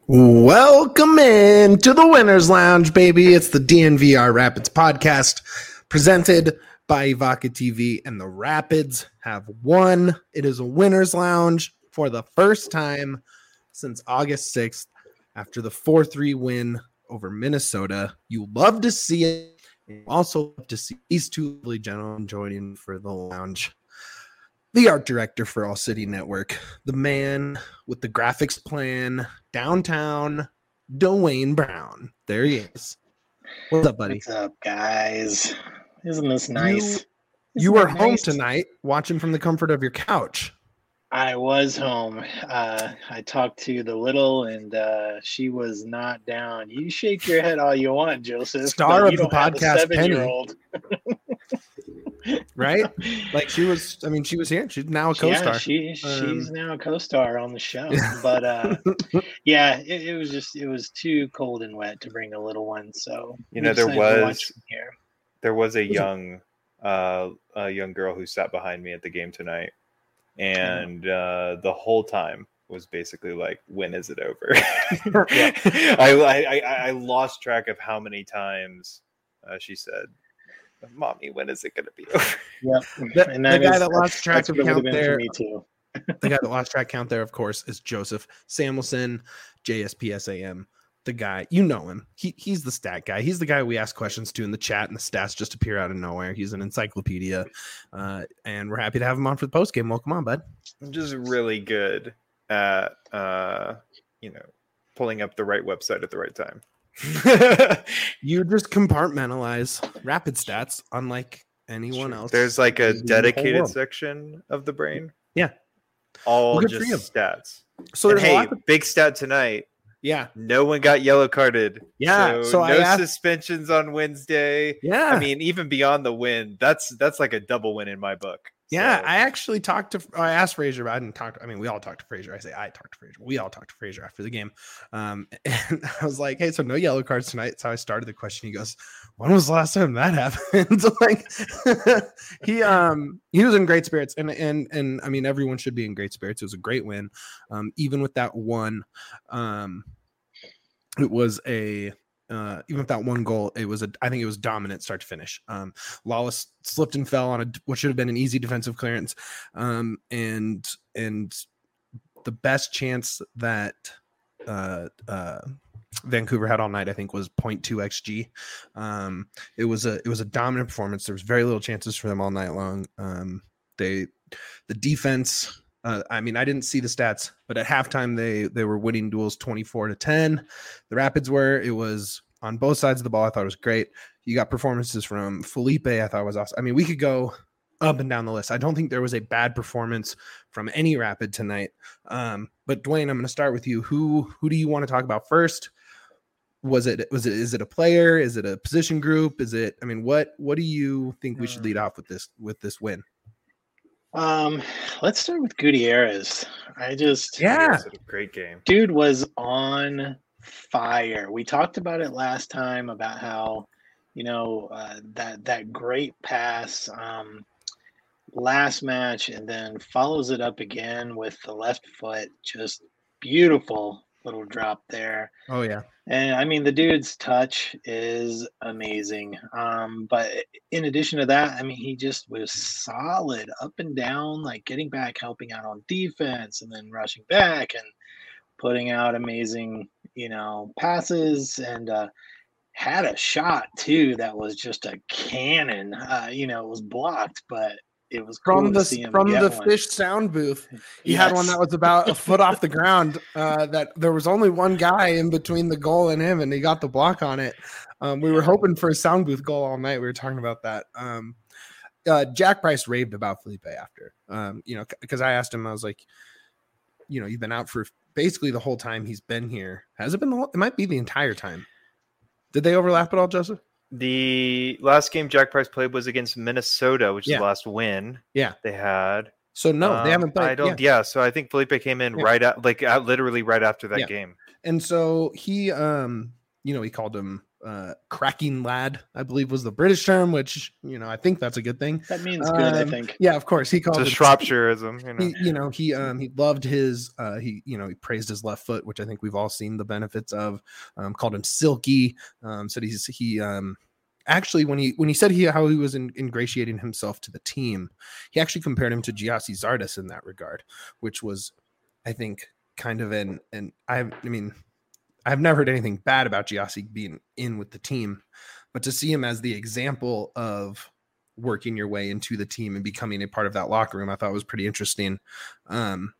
Welcome in to the Winners Lounge, baby. It's the DNVR Rapids podcast presented by Evoca TV, and the Rapids have won. It is a Winners Lounge for the first time since August 6th after the 4-3 win over Minnesota. You love to see it. You also love to see these two lovely gentlemen joining for the lounge. The art director for All City Network, the man with the graphics plan downtown, Dwayne Brown. There he is. What's up, buddy? What's up, guys? Isn't this nice? You were home tonight watching from the comfort of your couch. I was home. I talked to the little, and she was not down. You shake your head all you want, Joseph. Star of the podcast, Penny. Right? Like she was here. She's now a co-star. Yeah, she's now a co-star on the show. But yeah, it was too cold and wet to bring the little one. So there was a young girl who sat behind me at the game tonight, and the whole time was basically like, when is it over? I lost track of how many times she said, "Mommy, when is it going to be over?" Yep. The guy that lost track of count there. Me too. The guy that lost track count there, of course, is Joseph Samuelson, JSPSAM. The guy, you know him. He's the stat guy. He's the guy we ask questions to in the chat, and the stats just appear out of nowhere. He's an encyclopedia, and we're happy to have him on for the post game. Welcome on, bud. I'm just really good at pulling up the right website at the right time. You just compartmentalize rapid stats unlike anyone else. There's like a dedicated section of the brain. Yeah. All just stats. So there's big stat tonight. Yeah. No one got yellow carded. Yeah. So no suspensions on Wednesday. Yeah. I mean, even beyond the win, that's like a double win in my book. Yeah, So. I actually I asked Frazier, but we all talked to Frazier. I talked to Frazier. We all talked to Frazier after the game. And I was like, hey, so no yellow cards tonight. That's how I started the question. He goes, when was the last time that happened? Like he was in great spirits. And I mean, everyone should be in great spirits. It was a great win. Even with that one, it was even with that one goal, I think it was dominant start to finish. Lawless slipped and fell on what should have been an easy defensive clearance. And the best chance that Vancouver had all night, I think, was 0.2 xG. It was a dominant performance. There was very little chances for them all night long. The defense. I didn't see the stats, but at halftime they were winning duels 24-10. The Rapids were. It was on both sides of the ball. I thought it was great. You got performances from Felipe. I thought was awesome. I mean, we could go up and down the list. I don't think there was a bad performance from any Rapid tonight. But Dwayne, I'm going to start with you. Who do you want to talk about first? Is it a player? Is it a position group? What do you think we should lead off with this win? Let's start with Gutierrez. Gutierrez had a great game. Dude was on fire. We talked about it last time about how, that great pass last match, and then follows it up again with the left foot. Just beautiful little drop there. Oh yeah. And I mean, the dude's touch is amazing. But in addition to that, I mean, he just was solid up and down, like getting back, helping out on defense, and then rushing back and putting out amazing, passes, and had a shot too that was just a cannon. It was blocked, but it was cool to see him from the one. Fish sound booth. He had one that was about a foot off the ground. That there was only one guy in between the goal and him, and he got the block on it. We were hoping for a sound booth goal all night. We were talking about that. Jack Price raved about Felipe after, because I asked him, I was like, you've been out for basically the whole time he's been here. Has it been it might be the entire time. Did they overlap at all, Joseph? The last game Jack Price played was against Minnesota, which is the last win. Yeah, they had. So no, they haven't played. So I think Felipe came in literally right after that game. And so he, he called him cracking lad, I believe was the British term, which, I think that's a good thing. That means good, I think. Yeah, of course. He called it's it a Shropshireism, he loved his he praised his left foot, which I think we've all seen the benefits of. Called him silky. Said he actually when he said how he was ingratiating himself to the team, he actually compared him to Giassi Zardes in that regard, which was, I think, kind of I've never heard anything bad about Giassi being in with the team, but to see him as the example of working your way into the team and becoming a part of that locker room, I thought was pretty interesting. And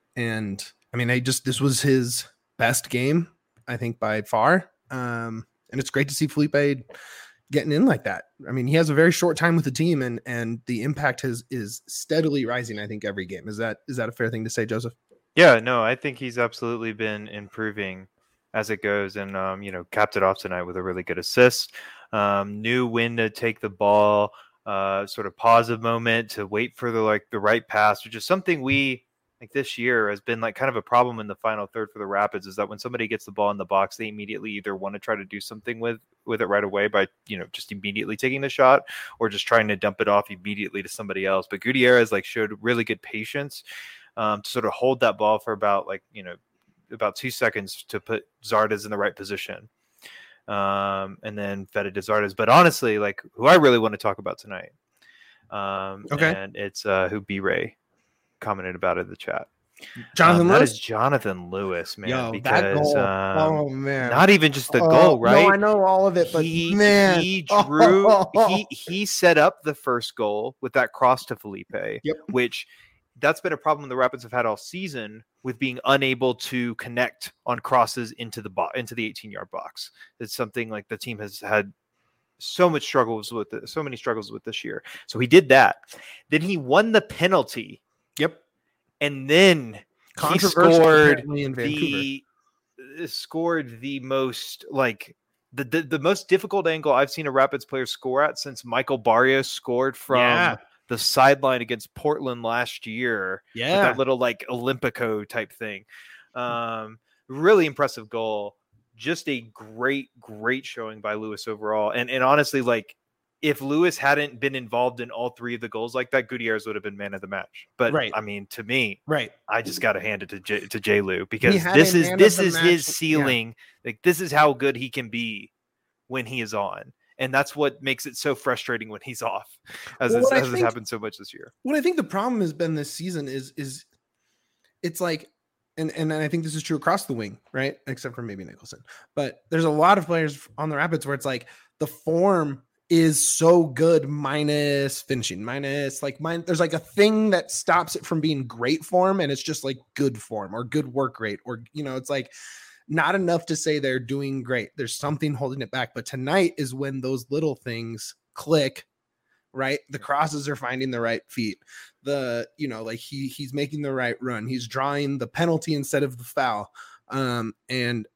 this was his best game, I think, by far. And it's great to see Felipe getting in like that. I mean, he has a very short time with the team, and the impact is steadily rising, I think, every game. Is that a fair thing to say, Joseph? Yeah, no, I think he's absolutely been improving as it goes, and capped it off tonight with a really good assist. Knew when to take the ball, sort of pause a moment to wait for the right pass, which is something we this year has been kind of a problem in the final third for the Rapids, is that when somebody gets the ball in the box, they immediately either want to try to do something with it right away by just immediately taking the shot, or just trying to dump it off immediately to somebody else. But Gutierrez showed really good patience to sort of hold that ball for about 2 seconds to put Zardes in the right position, and then fed it to Zardes. But honestly, who I really want to talk about tonight, and it's who B-Ray commented about in the chat. Jonathan Lewis? That is Jonathan Lewis, man. Yo, because that goal. Oh man, not even just the goal, right? No, I know all of it, but he drew. He set up the first goal with that cross to Felipe, which that's been a problem the Rapids have had all season, with being unable to connect on crosses into the 18-yard box. It's something the team has had so many struggles with this year. So he did that. Then he won the penalty. Yep. And then he scored the most the most difficult angle I've seen a Rapids player score at since Michael Barrios scored from the sideline against Portland last year. Yeah. With that little Olympico type thing. Really impressive goal. Just a great showing by Lewis overall. And honestly, if Lewis hadn't been involved in all three of the goals like that, Gutierrez would have been man of the match. But I mean, to me, I just got to hand it to J. Lou, because this is his ceiling. Yeah. This is how good he can be when he is on. And that's what makes it so frustrating when he's off, as has happened so much this year. What I think the problem has been this season is it's and I think this is true across the wing, right? Except for maybe Nicholson. But there's a lot of players on the Rapids where it's the form is so good minus finishing, there's a thing that stops it from being great form, and it's just good form or good work rate, or it's not enough to say they're doing great. There's something holding it back. But tonight is when those little things click, right? The crosses are finding the right feet. He's making the right run. He's drawing the penalty instead of the foul. And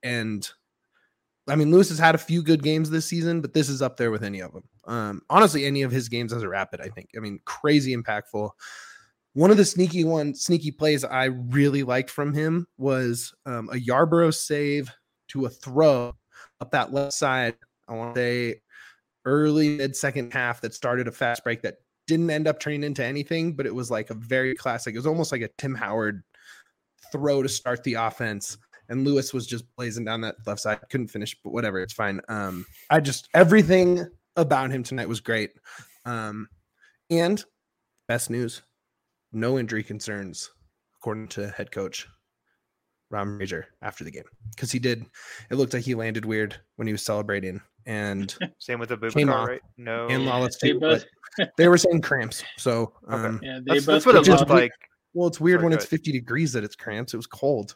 I mean, Lewis has had a few good games this season, but this is up there with any of them. Honestly, any of his games as a Rapid, I think. I mean, crazy impactful. One of the sneaky plays I really liked from him was a Yarborough save to a throw up that left side. I want to say early mid-second half that started a fast break that didn't end up turning into anything, but it was a very classic. It was almost like a Tim Howard throw to start the offense. And Lewis was just blazing down that left side. Couldn't finish, but whatever. It's fine. Everything about him tonight was great. And best news, no injury concerns, according to head coach Ron Fraser after the game. Because it looked like he landed weird when he was celebrating. And same with the Boubacar, right? No. And Lawless too. They were saying cramps. So that's what it looked like. Well, it's weird when it's 50 degrees that it's cramps. It was cold.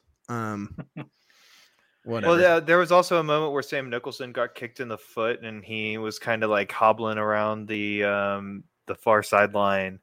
Whatever. Well, there was also a moment where Sam Nicholson got kicked in the foot, and he was kind of hobbling around the far sideline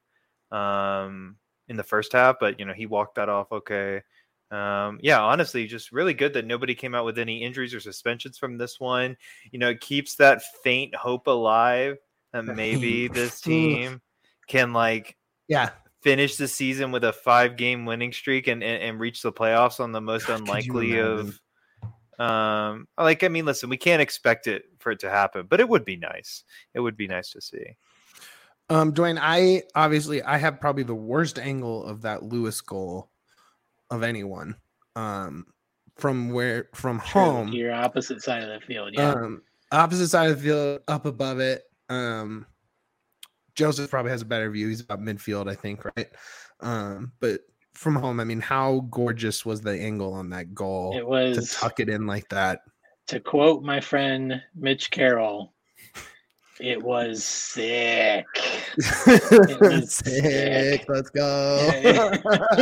in the first half, but he walked that off okay. Honestly, just really good that nobody came out with any injuries or suspensions from this one. It keeps that faint hope alive that maybe this team can finish the season with a 5-game winning streak and reach the playoffs on the most unlikely of Like, I mean, listen, we can't expect it for it to happen, but it would be nice. It would be nice to see. Dwayne, I have probably the worst angle of that Lewis goal of anyone. From home, your opposite side of the field. Yeah. Opposite side of the field, up above it. Joseph probably has a better view. He's about midfield, I think, right? But from home, I mean, how gorgeous was the angle on that goal? It was to tuck it in like that. To quote my friend Mitch Carroll, it was sick. It was sick. Let's go.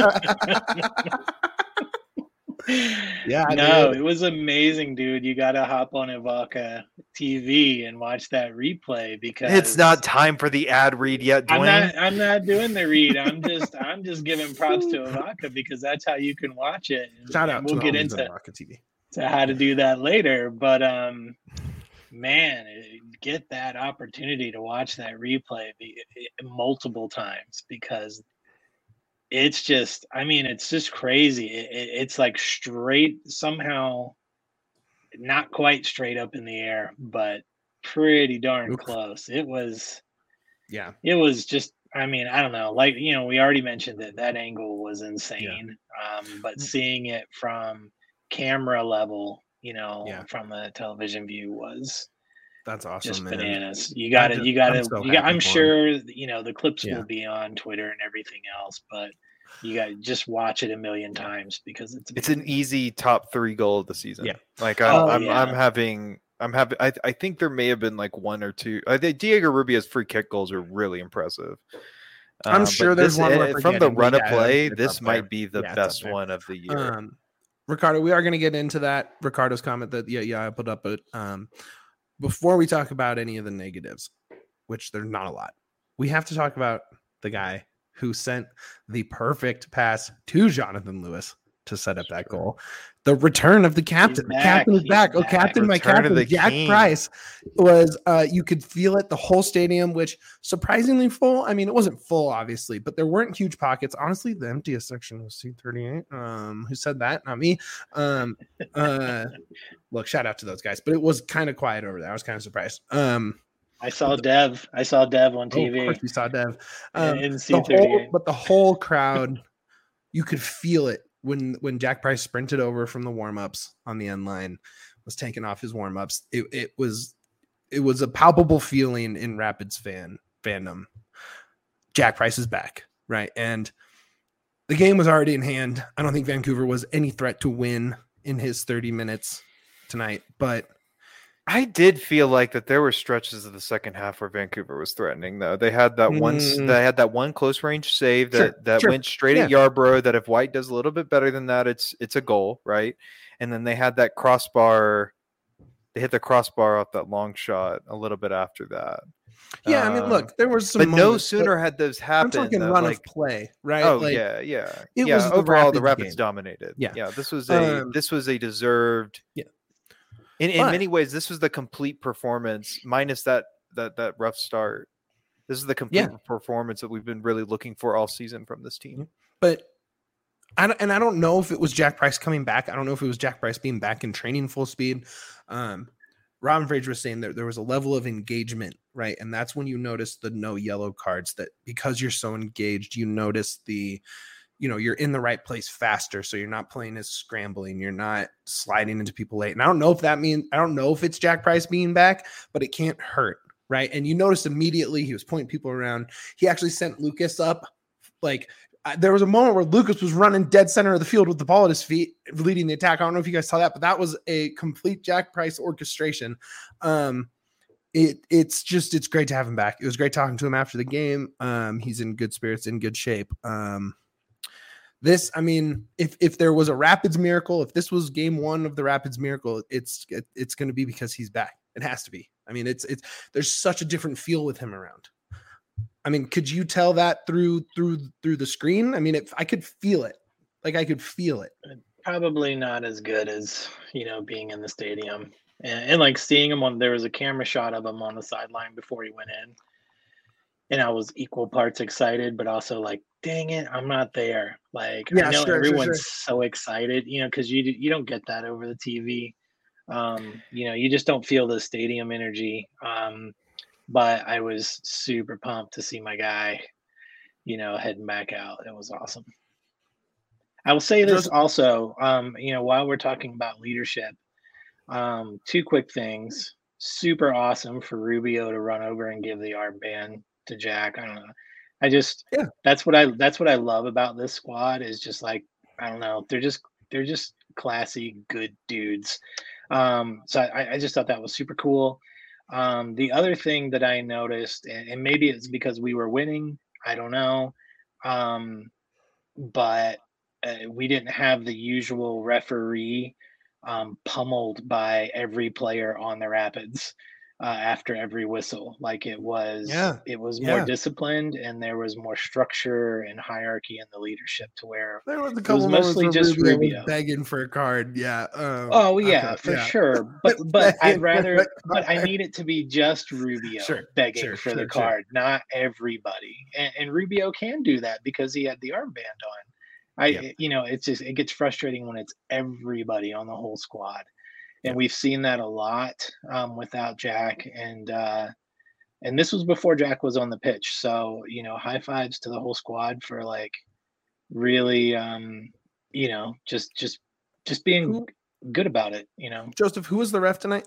Yeah, no, it was amazing, dude. You got to hop on Evoca TV and watch that replay because it's not time for the ad read yet, Dwayne. I'm not doing the read. I'm just giving props to Evoca because that's how you can watch it. Shout out we'll to get into Evoca TV. To how to do that later, but man, get that opportunity to watch that replay multiple times because it's just, I mean, it's just crazy. It's like straight, somehow not quite straight up in the air, but pretty darn close. It was just, I mean, I don't know, like, you know, we already mentioned that angle was insane. But seeing it from camera level, you know, from the television view that's awesome, just man. Bananas. You got to, I'm sure, you know, the clips will be on Twitter and everything else, but you got to just watch it a million times because it's an easy top 3 goal of the season. Yeah. Like I think there may have been like 1 or 2. I think Diego Rubio's free kick goals are really impressive. I'm sure there's one from the run of play. This might be the best one of the year. Ricardo, we are going to get into that. Ricardo's comment that I put up, but before we talk about any of the negatives, which there's not a lot, we have to talk about the guy who sent the perfect pass to Jonathan Lewis to set up that goal. The return of the captain. The captain is back. Oh, captain, my captain, Jack Price was, you could feel it, the whole stadium, which surprisingly full. I mean, it wasn't full, obviously, but there weren't huge pockets. Honestly, the emptiest section was seat 38. Who said that? Not me. Look, shout out to those guys, but it was kind of quiet over there. I was kind of surprised. I saw Dev on TV. Of course you saw Dev. In seat 38. But the whole crowd, you could feel it. When Jack Price sprinted over from the warm-ups on the end line, was taking off his warm-ups, it was a palpable feeling in Rapids fandom. Jack Price is back, right? And the game was already in hand. I don't think Vancouver was any threat to win in his 30 minutes tonight, but I did feel like that there were stretches of the second half where Vancouver was threatening, though. They had that one close range save that went straight at Yarbrough, that if White does a little bit better than that, it's a goal, right? And then they had that crossbar. They hit the crossbar off that long shot a little bit after that. Yeah, I mean, look, there was some. But no sooner had those happened. I'm talking run of play, right? Oh, yeah. It was overall the Rapids game. Dominated. Yeah. This was a deserved. Yeah. In many ways, this was the complete performance, minus that rough start. This is the complete performance that we've been really looking for all season from this team. But I don't know if it was Jack Price coming back. I don't know if it was Jack Price being back in training full speed. Robin Fraser was saying that there was a level of engagement, right? And that's when you notice the no yellow cards, that because you're so engaged, you notice you're in the right place faster. So you're not playing as scrambling. You're not sliding into people late. And I don't know if it's Jack Price being back, but it can't hurt. Right. And you noticed immediately he was pointing people around. He actually sent Lucas up. Like there was a moment where Lucas was running dead center of the field with the ball at his feet, leading the attack. I don't know if you guys saw that, but that was a complete Jack Price orchestration. It's great to have him back. It was great talking to him after the game. He's in good spirits, in good shape. If there was a Rapids miracle, if this was game 1 of the Rapids miracle, it's going to be because he's back. It has to be. I mean, there's such a different feel with him around. I mean, could you tell that through the screen? I mean, I could feel it. Like I could feel it. Probably not as good as, being in the stadium and like seeing him there was a camera shot of him on the sideline before he went in. And I was equal parts excited, but also like, dang it, I'm not there. Like, I know everyone's so excited, because you don't get that over the TV. You just don't feel the stadium energy. But I was super pumped to see my guy, heading back out. It was awesome. I will say this also, while we're talking about leadership, two quick things. Super awesome for Rubio to run over and give the armband to Jack. I don't know. That's what I love about this squad is just like, I don't know. They're just classy, good dudes. So I just thought that was super cool. The other thing that I noticed, and maybe it's because we were winning, I don't know. But we didn't have the usual referee pummeled by every player on the Rapids after every whistle. Like it was more disciplined, and there was more structure and hierarchy in the leadership to where there was a couple it was mostly just Rubio begging for a card. Yeah. For sure. But I need it to be just Rubio begging for the card, not everybody. And Rubio can do that because he had the armband on. It gets frustrating when it's everybody on the whole squad, and we've seen that a lot without Jack, and this was before Jack was on the pitch. So high fives to the whole squad for like really, just being good about it. Joseph, who was the ref tonight?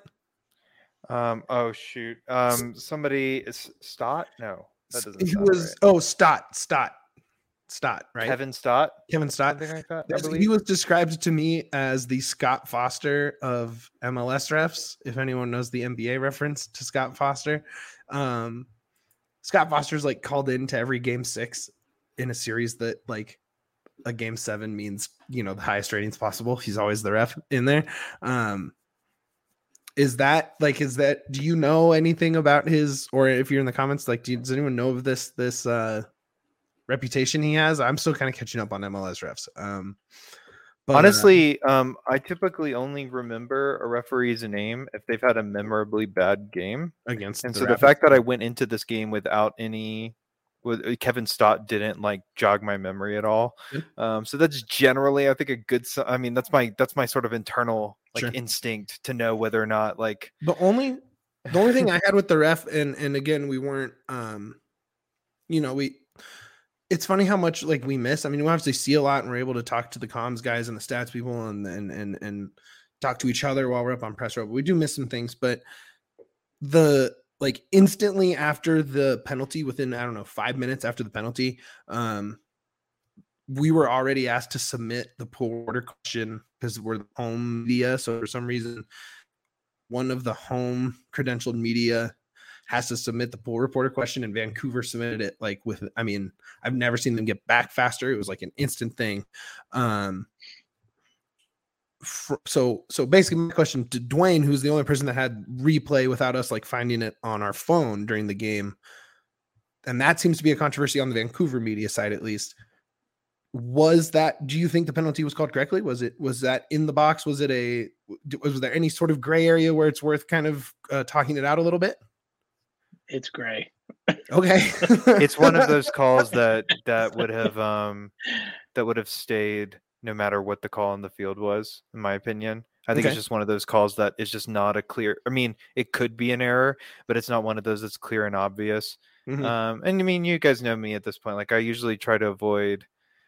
Somebody is Stott? No, that doesn't. He was right. Stott, right? Kevin Stott. Something like that. He was described to me as the Scott Foster of MLS refs. If anyone knows the NBA reference to Scott Foster, Scott Foster's like called into every game 6 in a series that like a game 7 means the highest ratings possible. He's always the ref in there. Is that do you know anything about his, or if you're in the comments, like does anyone know of this reputation he has? I'm still kind of catching up on MLS refs. But, honestly, I typically only remember a referee's name if they've had a memorably bad game against. And so the fact that I went into this game without with Kevin Stott didn't like jog my memory at all. So that's generally, I think, a good. I mean, that's my sort of internal instinct to know whether or not like the only thing I had with the ref, and again, we weren't, it's funny how much like we miss. I mean, we obviously see a lot and we're able to talk to the comms guys and the stats people and talk to each other while we're up on press row. But we do miss some things. But instantly after the penalty, within, 5 minutes after the penalty, we were already asked to submit the pool order question because we're the home media. So for some reason, one of the home credentialed media has to submit the pool reporter question, and Vancouver submitted it I've never seen them get back faster. It was like an instant thing. So basically my question to Dwayne, who's the only person that had replay without us like finding it on our phone during the game, and that seems to be a controversy on the Vancouver media side, at least. Do you think the penalty was called correctly? Was that in the box? Was there any sort of gray area where it's worth kind of talking it out a little bit? It's gray. Okay. It's one of those calls that would have stayed no matter what the call on the field was, in my opinion. I think it's just one of those calls that is just not a clear. I mean, it could be an error, but it's not one of those that's clear and obvious. Mm-hmm. And I mean, you guys know me at this point. Like, I usually try to avoid,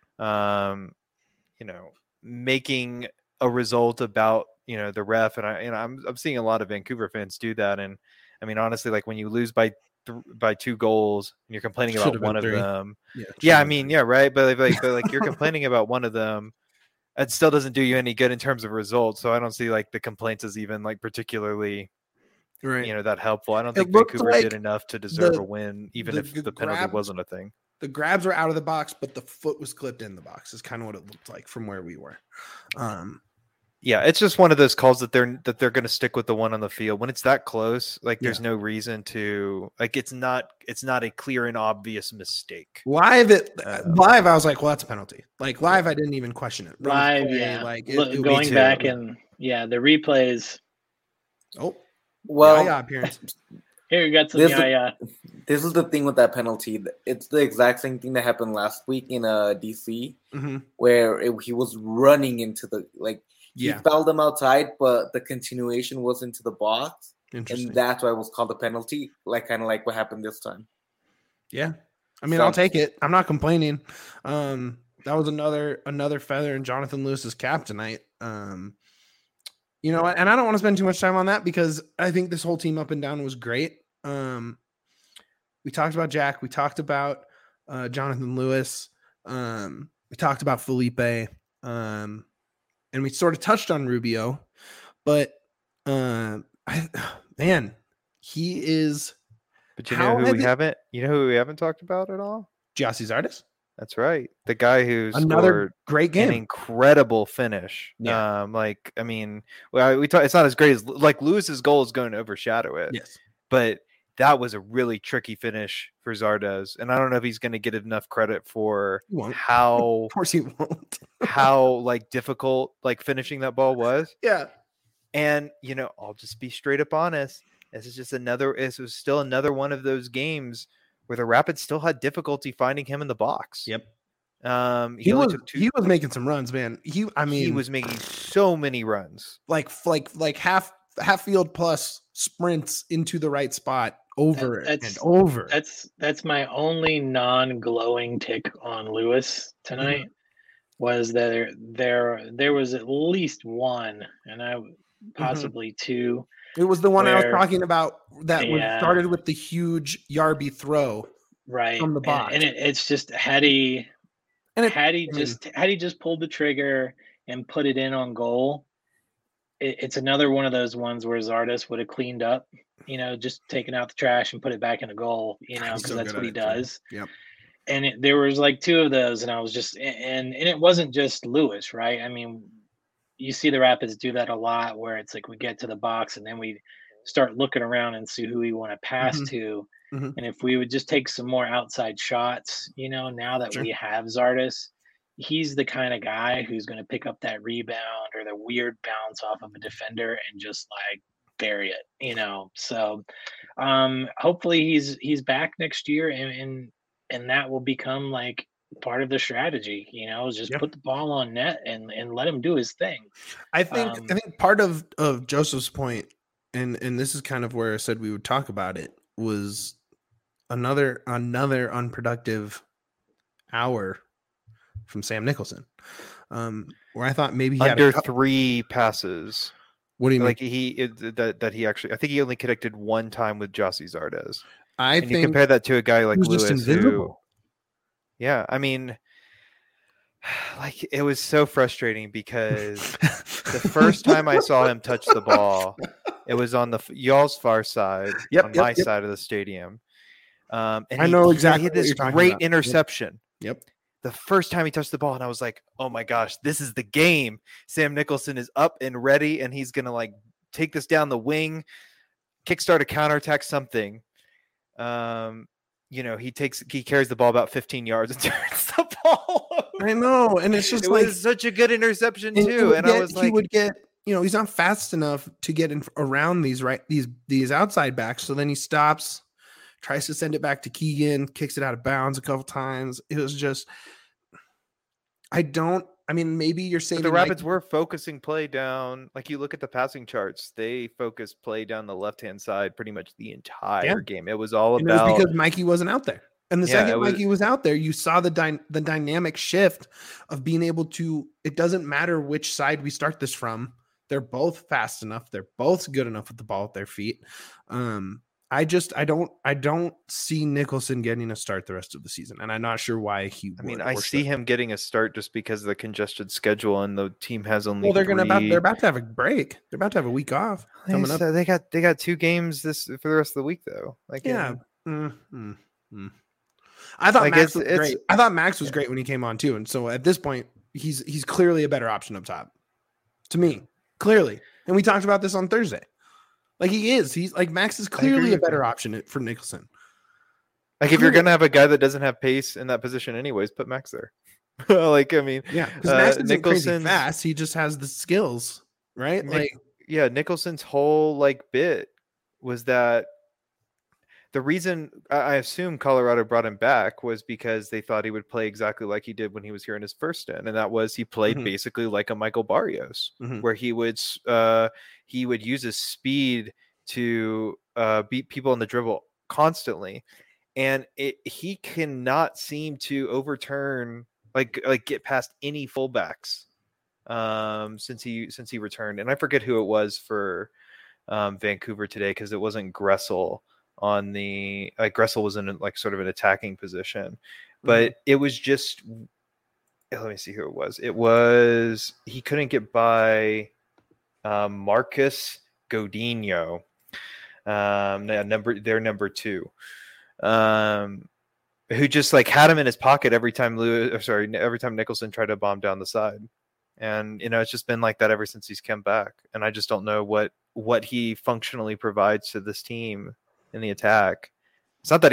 making a result about the ref, and I'm seeing a lot of Vancouver fans do that. And I mean, honestly, like when you lose by 2 goals and you're complaining about one of them, right. But like you're complaining about one of them. It still doesn't do you any good in terms of results. So I don't see like the complaints as even like particularly, that helpful. I don't think Vancouver did enough to deserve a win, even if the penalty wasn't a thing. The grabs were out of the box, but the foot was clipped in the box is kind of what it looked like from where we were. Yeah, it's just one of those calls that they're going to stick with the one on the field when it's that close. Like, there's no reason to like. It's not a clear and obvious mistake. Live, I was like, well, that's a penalty. Like live, I didn't even question it. Live, going back and the replays. Oh, well, appearance. Here you got some. This is the thing with that penalty. It's the exact same thing that happened last week in DC, mm-hmm. where he was running into He Yeah. fouled him outside, but the continuation was into the box. Interesting. And that's why it was called a penalty, kind of like what happened this time. Yeah. I mean, So- I'll take it. I'm not complaining. That was another feather in Jonathan Lewis's cap tonight. You know, and I don't want to spend too much time on that because I think this whole team up and down was great. We talked about Jack. We talked about Jonathan Lewis. We talked about Felipe. And we sort of touched on Rubio, but he is. But you know who we haven't talked about at all? Gyasi Zardes. That's right. The guy who Another scored great game. an incredible finish. Yeah. It's not as great as Lewis's goal is going to overshadow it. Yes. But that was a really tricky finish for Zardes. And I don't know if he's going to get enough credit for how Of course he won't. how difficult finishing that ball was. Yeah. And I'll just be straight up honest. This was still another one of those games where the Rapids still had difficulty finding him in the box. Yep. He was making some runs, man. He was making so many runs, like half field plus sprints into the right spot over and over. That's my only non-glowing tick on Lewis tonight. Was that there was at least one, and possibly two. It was the one I was talking about that started with the huge Yarby throw right from the box. And it's just had he just pulled the trigger and put it in on goal, it's another one of those ones where Zardes would have cleaned up, just taken out the trash and put it back in the goal, because that's what he does. Yep. And there was like two of those, and I was just and it wasn't just Lewis, right? I mean, you see the Rapids do that a lot where it's like we get to the box and then we start looking around and see who we want to pass to. Mm-hmm. And if we would just take some more outside shots, now that we have Zardes, he's the kind of guy who's going to pick up that rebound or the weird bounce off of a defender and just bury it, So hopefully he's back next year and that will become part of the strategy, is just put the ball on net and let him do his thing. I think part of Joseph's point, and this is kind of where I said we would talk about it, was another unproductive hour from Sam Nicholson, where I thought maybe he under had 3 passes. What do you mean? He actually, I think he only connected one time with Gyasi Zardes. I think you compare that to a guy like Lewis, just invisible. Yeah, I mean, it was so frustrating because the first time I saw him touch the ball, it was on y'all's far side, on my side of the stadium. And I know exactly. He had this great interception. Yep. The first time he touched the ball, and I was like, "Oh my gosh, this is the game!" Sam Nicholson is up and ready, and he's gonna take this down the wing, kickstart a counterattack, something. He carries the ball about 15 yards and turns the ball over. I know, and it's just was such a good interception too. And I was he would get, he's not fast enough to get around these outside backs. So then he stops, tries to send it back to Keegan, kicks it out of bounds a couple times. It was just, maybe you're saying the Rapids were focusing play down. You look at the passing charts, they focused play down the left-hand side pretty much the entire game. It was all about. It was because Mikey wasn't out there. And the second Mikey was out there, you saw the dynamic shift of being able to, it doesn't matter which side we start this from. They're both fast enough. They're both good enough with the ball at their feet. I don't see Nicholson getting a start the rest of the season, and I'm not sure why he. I see him getting a start just because of the congested schedule, and the team has only. Well, they're about to have a break. They're about to have a week off coming up. They got 2 games for the rest of the week though. I thought Max was great. I thought Max was great when he came on too, and so at this point, he's clearly a better option up top, to me, clearly. And we talked about this on Thursday. He's Max is clearly a better option for Nicholson. If you're gonna have a guy that doesn't have pace in that position, anyways, put Max there. Because Max isn't crazy fast. He just has the skills, right? Nicholson's whole bit was that the reason I assume Colorado brought him back was because they thought he would play exactly like he did when he was here in his first stint, and that was he played basically like a Michael Barrios, where he would use his speed to beat people in the dribble constantly, and he cannot seem to overturn like get past any fullbacks since he returned, and I forget who it was for Vancouver today because it wasn't Gressel on the Gressel was in like sort of an attacking position, but it was just let me see who it was. It was he couldn't get by Marcus Godinho, their number 2, who just like had him in his pocket every time Nicholson tried to bomb down the side. And, it's just been like that ever since he's come back. And I just don't know what he functionally provides to this team in the attack. It's not that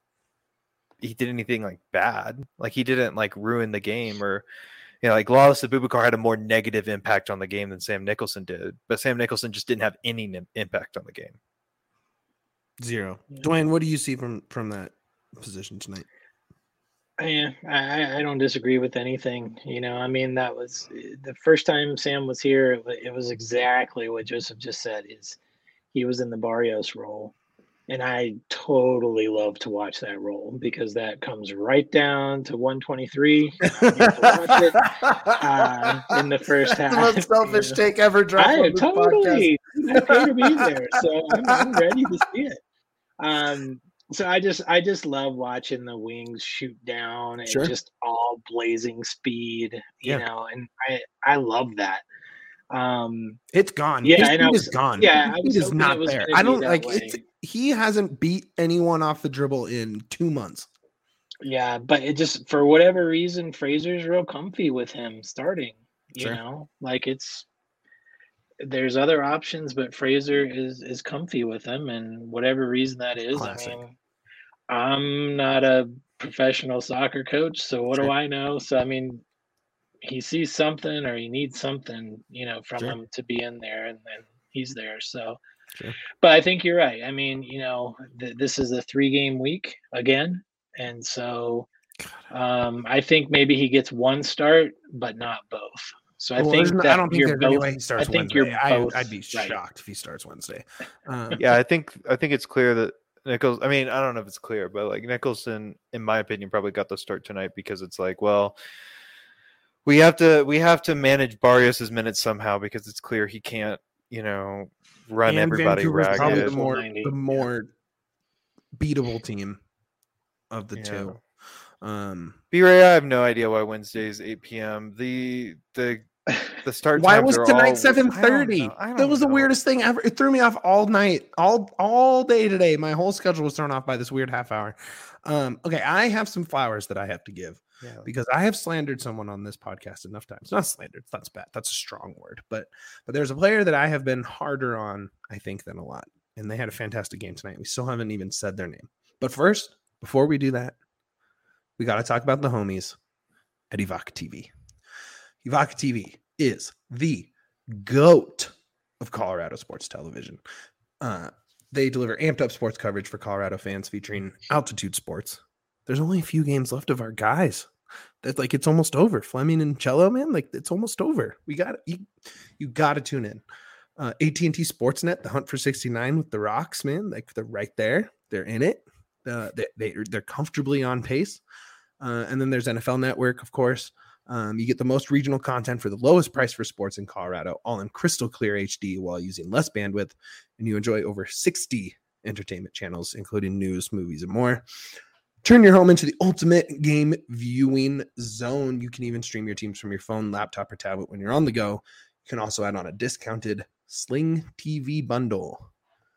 he did anything like bad. Like he didn't like ruin the game or, like Lawless Abubakar had a more negative impact on the game than Sam Nicholson did. But Sam Nicholson just didn't have any impact on the game. 0. Dwayne, what do you see from that position tonight? Yeah, I don't disagree with anything. That was the first time Sam was here. It was exactly what Joseph just said. Is he was in the Barrios role, and I totally love to watch that role because that comes right down to 123. I get to watch it in the first half. The most selfish take ever dropped. I totally pay to be there, so I'm ready to see it. So I just love watching the wings shoot down and just all blazing speed, you know, and I love that. It's gone. Yeah, I know. It's gone. Yeah, it is not there. I don't like it. He hasn't beat anyone off the dribble in 2 months. Yeah, but it just for whatever reason, Fraser's real comfy with him starting. You know, like there's other options, but Fraser is comfy with him, and whatever reason that is. Classic. I mean, I'm not a professional soccer coach, so what do I know? So, I mean, he sees something or he needs something, from him to be in there, and then he's there. So, but I think you're right. I mean, this is a 3-game week again. And so I think maybe he gets one start, but not both. So I think I don't think there's any way he starts Wednesday. I'd be shocked if he starts Wednesday. Yeah, I think it's clear that Nichols, I mean, I don't know if it's clear, but like Nicholson, in my opinion, probably got the start tonight because it's like, well, we have to manage Barrios' minutes somehow because it's clear he can't, run everybody ragged. Probably the more beatable team of the two. B-Ray, I have no idea why Wednesday's 8 p.m. The start. Why was tonight 7:30? That was the weirdest thing ever. It threw me off all night, all day today. My whole schedule was thrown off by this weird half hour. Okay, I have some flowers that I have to give because I have slandered someone on this podcast enough times. Not slandered, that's bad. That's a strong word. But there's a player that I have been harder on, I think, than a lot. And they had a fantastic game tonight. We still haven't even said their name. But first, before we do that, we got to talk about the homies at Evoca TV. Evoca TV is the GOAT of Colorado sports television. They deliver amped up sports coverage for Colorado fans featuring altitude sports. There's only a few games left of our guys. That's like, it's almost over. Fleming and Cello, man, like it's almost over. We got you got to tune in. AT&T Sportsnet, the hunt for 69 with the Rocks, man, like they're right there. They're in it. They're comfortably on pace. And then there's NFL Network, of course. You get the most regional content for the lowest price for sports in Colorado, all in crystal clear HD while using less bandwidth. And you enjoy over 60 entertainment channels, including news, movies, and more. Turn your home into the ultimate game viewing zone. You can even stream your teams from your phone, laptop, or tablet when you're on the go. You can also add on a discounted Sling TV bundle.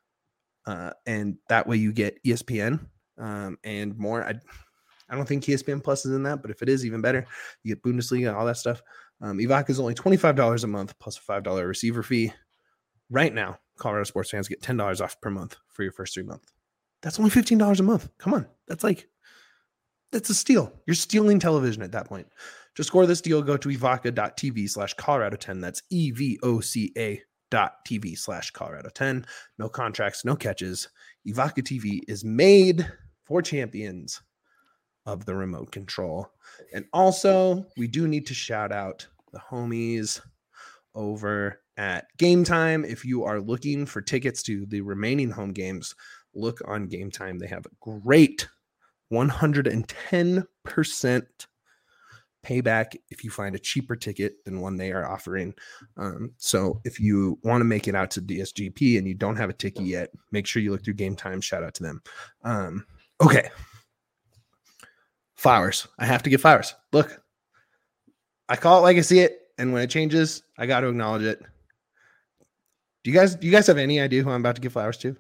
And that way you get ESPN and more. I don't think ESPN Plus is in that, but if it is, even better. You get Bundesliga, all that stuff. Evoca is only $25 a month plus a $5 receiver fee. Right now, Colorado sports fans get $10 off per month for your first 3 months. That's only $15 a month. Come on. That's a steal. You're stealing television at that point. To score this deal, go to evoca.tv/Colorado10. That's twitch.tv/Colorado10. No contracts, no catches. Evoca TV is made for champions of the remote control. And also, we do need to shout out the homies over at Game Time. If you are looking for tickets to the remaining home games, look on Game Time. They have a great 110% payback if you find a cheaper ticket than one they are offering. So if you want to make it out to DSGP and you don't have a ticket yet, make sure you look through Game Time. Shout out to them. Okay. Flowers. I have to give flowers. Look, I call it like I see it, and when it changes, I got to acknowledge it. Do you guys have any idea who I'm about to give flowers to?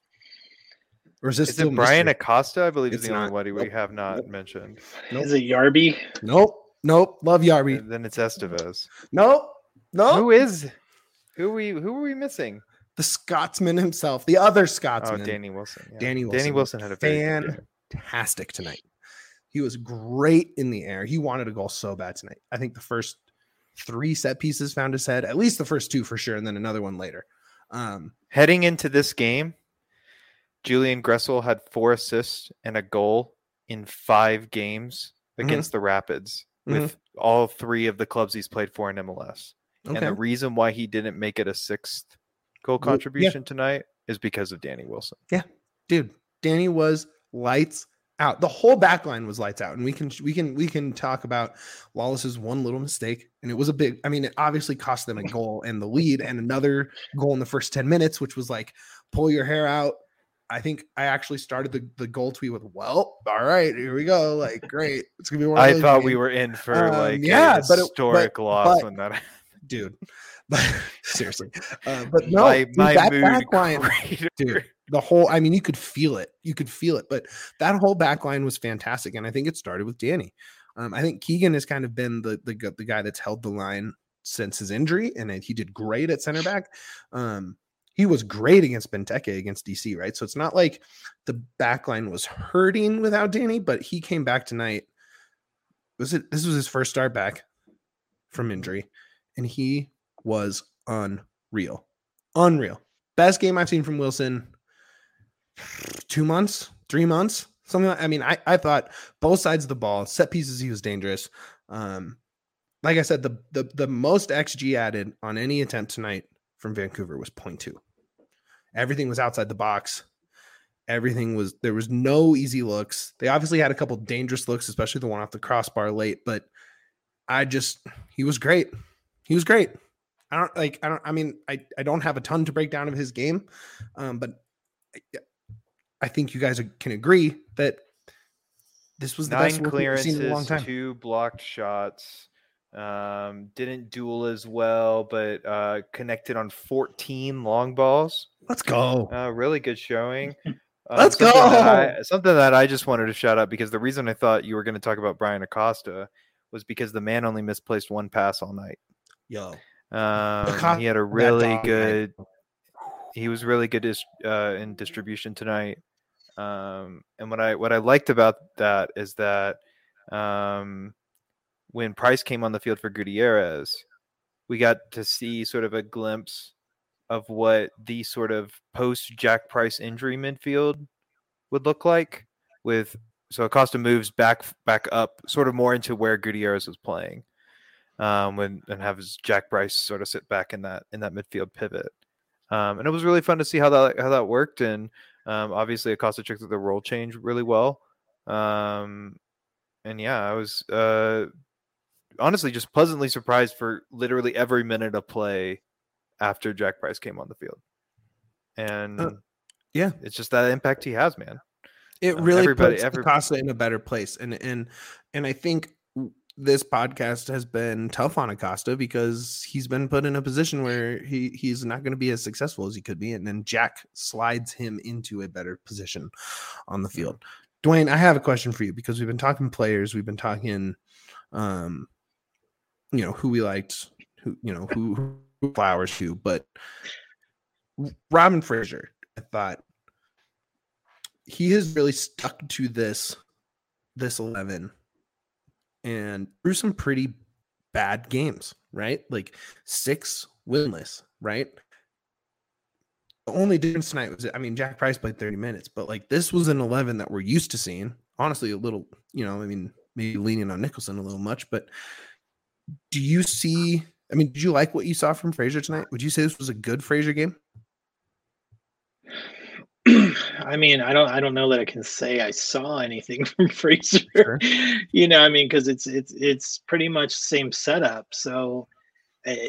Or is this Is still it Brian mystery? Acosta? I believe It's is the only not. one we Nope. have not Nope. mentioned. Nope. Is it Yarby? Nope. Love Yarby. Then it's Estevez. Nope. Who are we missing? The Scotsman himself, the other Oh, Scotsman. Danny Wilson. Yeah. Danny Wilson. Danny Wilson had a very good game. Fantastic tonight. He was great in the air. He wanted a goal so bad tonight. I think the first 3 set pieces found his head, at least the first 2 for sure, and then another one later. Heading into this game, Julian Gressel had 4 assists and a goal in 5 games against the Rapids with all 3 of the clubs he's played for in MLS. Okay. And the reason why he didn't make it a 6th goal contribution tonight is because of Danny Wilson. Dude, Danny was lights out. The whole back line was lights out. And we can talk about Wallace's one little mistake. And it was a big, I mean, it obviously cost them a goal and the lead and another goal in the first 10 minutes, which was like, pull your hair out. I think I actually started the goal tweet with, well, all right, here we go. Like, great. It's gonna be one of I those thought games. we were in for a but historic loss when that dude. But seriously. But no, my dude, that mood back line, cratered. dude, the whole, I mean, you could feel it. But that whole back line was fantastic. And I think it started with Danny. I think Keegan has kind of been the guy that's held the line since his injury, and he did great at center back. He was great against Benteke against DC, right? So it's not like the back line was hurting without Danny, but he came back tonight. This was his first start back from injury, and he was unreal. Best game I've seen from Wilson. 2 months, 3 months, something like, I mean, I thought both sides of the ball, set pieces, he was dangerous. Like I said, the most XG added on any attempt tonight from Vancouver was 0.2. Everything was outside the box. There was no easy looks. They obviously had a couple dangerous looks, especially the one off the crossbar late, but he was great. I don't have a ton to break down of his game. But I think you guys can agree that this was the 9 best work we've seen in a long clearances, time. 2 blocked shots. Didn't duel as well, but connected on 14 long balls. Let's go. Really good showing. Let's go. Something that I just wanted to shout out, because the reason I thought you were going to talk about Brian Acosta was because the man only misplaced 1 pass all night. Yo. He had a really good. He was really good in distribution tonight. And what I liked about that is that when Price came on the field for Gutierrez, we got to see sort of a glimpse of what the sort of post Jack Price injury midfield would look like. So Acosta moves back up, sort of more into where Gutierrez was playing, and have his Jack Price sort of sit back in that midfield pivot. And it was really fun to see how that worked. And obviously Acosta took the role change really well. And yeah, I was honestly just pleasantly surprised for literally every minute of play after Jack Price came on the field. And yeah, it's just that impact he has, man. It really puts Acosta in a better place. And I think this podcast has been tough on Acosta because he's been put in a position where he's not going to be as successful as he could be. And then Jack slides him into a better position on the field. Dwayne, I have a question for you, because we've been talking players. We've been talking, who we liked, who flowers to, but Robin Fraser, I thought he has really stuck to this 11 and through some pretty bad games, right? Like 6 winless, right? The only difference tonight was, I mean, Jack Price played 30 minutes, but like this was an 11 that we're used to seeing. Honestly, a little, I mean, maybe leaning on Nicholson a little much, but do you see, I mean, did you like what you saw from Frazier tonight? Would you say this was a good Frazier game? I mean, I don't know that I can say I saw anything from Frazier. Sure. I mean, because it's pretty much the same setup. So, I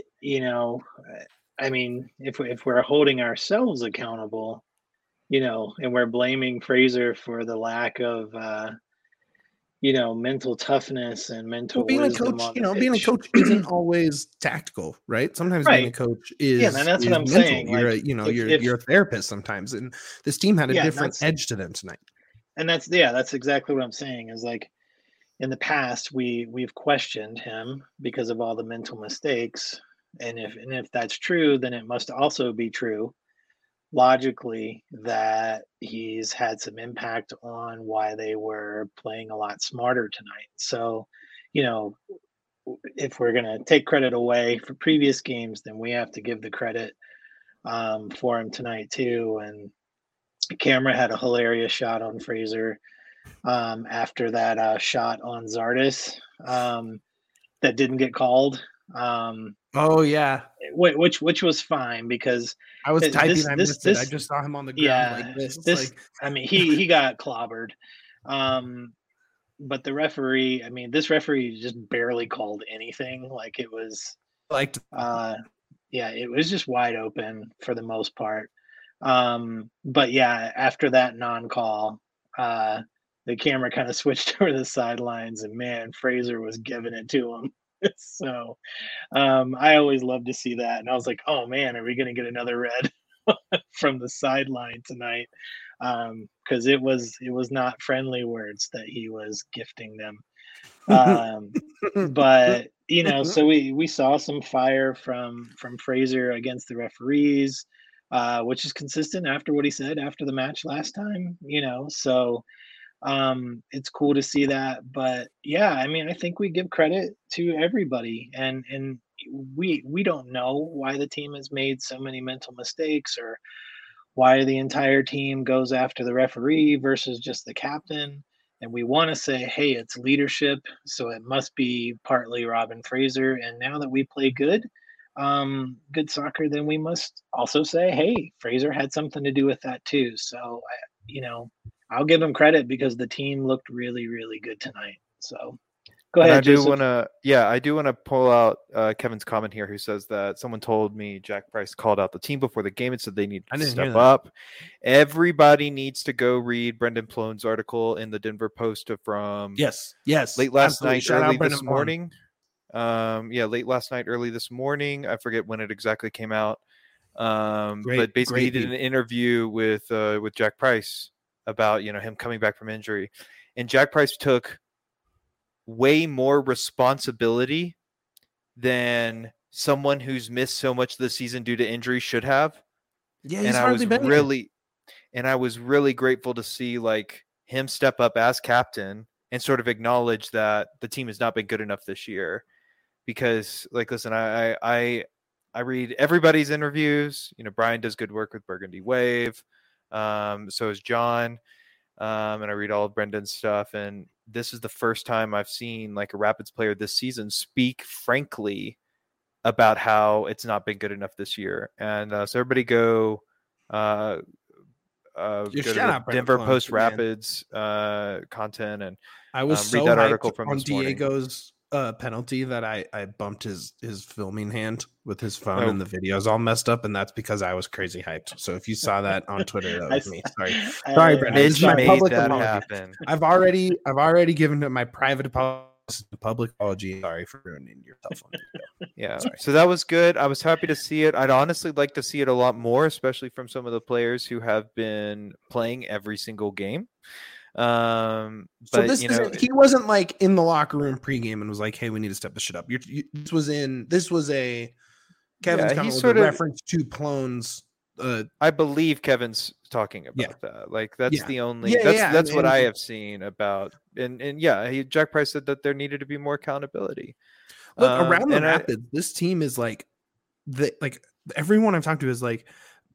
mean, if we're holding ourselves accountable, and we're blaming Frazier for the lack of mental toughness and mental being wisdom a coach, on the being a pitch. coach isn't always tactical, right? Sometimes being a coach is and that's what I'm mental. saying. You're you're a therapist sometimes, and this team had a different edge to them tonight. And that's exactly what I'm saying. Is like in the past we've questioned him because of all the mental mistakes, and if that's true, then it must also be true logically that he's had some impact on why they were playing a lot smarter tonight. So, if we're going to take credit away for previous games, then we have to give the credit for him tonight too. And Camera had a hilarious shot on Frazier after that shot on Zardes that didn't get called. Oh yeah, which was fine because I was typing. I missed it. I just saw him on the ground like this. I mean, he got clobbered. But the referee, I mean, this referee just barely called anything. Like it was it was just wide open for the most part. But yeah, after that non-call, the camera kind of switched over the sidelines, and man, Frazier was giving it to him. So I always love to see that. And I was like, oh man, are we going to get another red from the sideline tonight? Because it was not friendly words that he was gifting them. But so we saw some fire from Frazier against the referees, which is consistent after what he said after the match last time. So it's cool to see that. But yeah, I mean, I think we give credit to everybody, and we don't know why the team has made so many mental mistakes or why the entire team goes after the referee versus just the captain. And we want to say, hey, it's leadership, so it must be partly Robin Fraser. And now that we play good soccer, then we must also say, hey, Fraser had something to do with that too. So I'll give him credit because the team looked really, really good tonight. So go ahead. I do want to pull out Kevin's comment here, who says that someone told me Jack Price called out the team before the game and said they need to step up. Everybody needs to go read Brendan Plone's article in the Denver Post from late last night, early this morning. Late last night, early this morning. I forget when it exactly came out. But basically, he did an interview with Jack Price about him coming back from injury, and Jack Price took way more responsibility than someone who's missed so much this season due to injury should have. Yeah, he's hardly been here. And I was really grateful to see him step up as captain and sort of acknowledge that the team has not been good enough this year. Because listen, I read everybody's interviews. Brian does good work with Burgundy Wave. So is John. And I read all of Brendan's stuff. And this is the first time I've seen a Rapids player this season speak frankly about how it's not been good enough this year. And so everybody go to the Denver Post Rapids content and I was read that article from on this morning. Diego's penalty that I bumped his filming hand with his phone and the video is all messed up, and that's because I was crazy hyped. So if you saw that on Twitter, that was me. Sorry, Brendan. That happen. I've already given him my private apology. Public apology. Sorry for ruining your cell phone video. Yeah. Sorry. So that was good. I was happy to see it. I'd honestly like to see it a lot more, especially from some of the players who have been playing every single game. But he wasn't in the locker room pregame and was like, "Hey, we need to step this shit up." This was a Kevin's comment with a reference to Plone's. I believe Kevin's talking about that. That's the only. That's what I have seen about. And Jack Price said that there needed to be more accountability. Look, around the Rapids, this team is everyone I've talked to is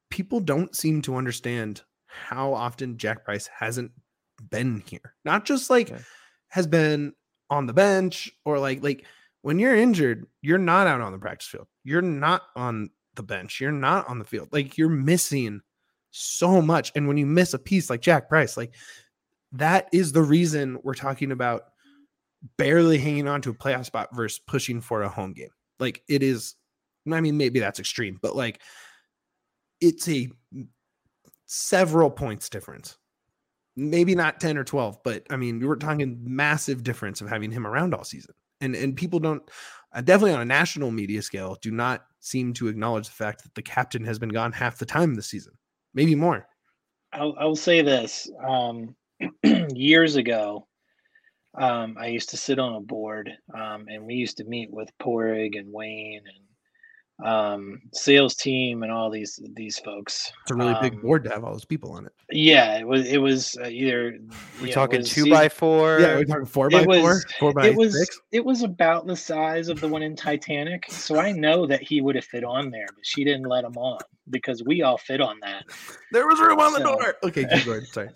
people don't seem to understand how often Jack Price hasn't been here. Not just like has been on the bench or like when you're injured, you're not out on the practice field. You're not on the bench. You're not on the field. Like you're missing so much. And when you miss a piece like Jack Price, like that is the reason we're talking about barely hanging on to a playoff spot versus pushing for a home game. Like it is, I mean, maybe that's extreme, but like it's a several points difference. Maybe not 10 or 12, but I mean, we were talking massive difference of having him around all season. And people don't, definitely on a national media scale, do not seem to acknowledge the fact that the captain has been gone half the time this season, maybe more. I'll say this. Years ago, I used to sit on a board, and we used to meet with Porig and Wayne and sales team and all these folks. It's a really big board to have all those people on it. Yeah, it was either we talking 2x4. Yeah, we're talking 4x4, 4x6. It was about the size of the one in Titanic. So I know that he would have fit on there, but she didn't let him on because we all fit on that. There was room on the door. Okay, keep going. Sorry.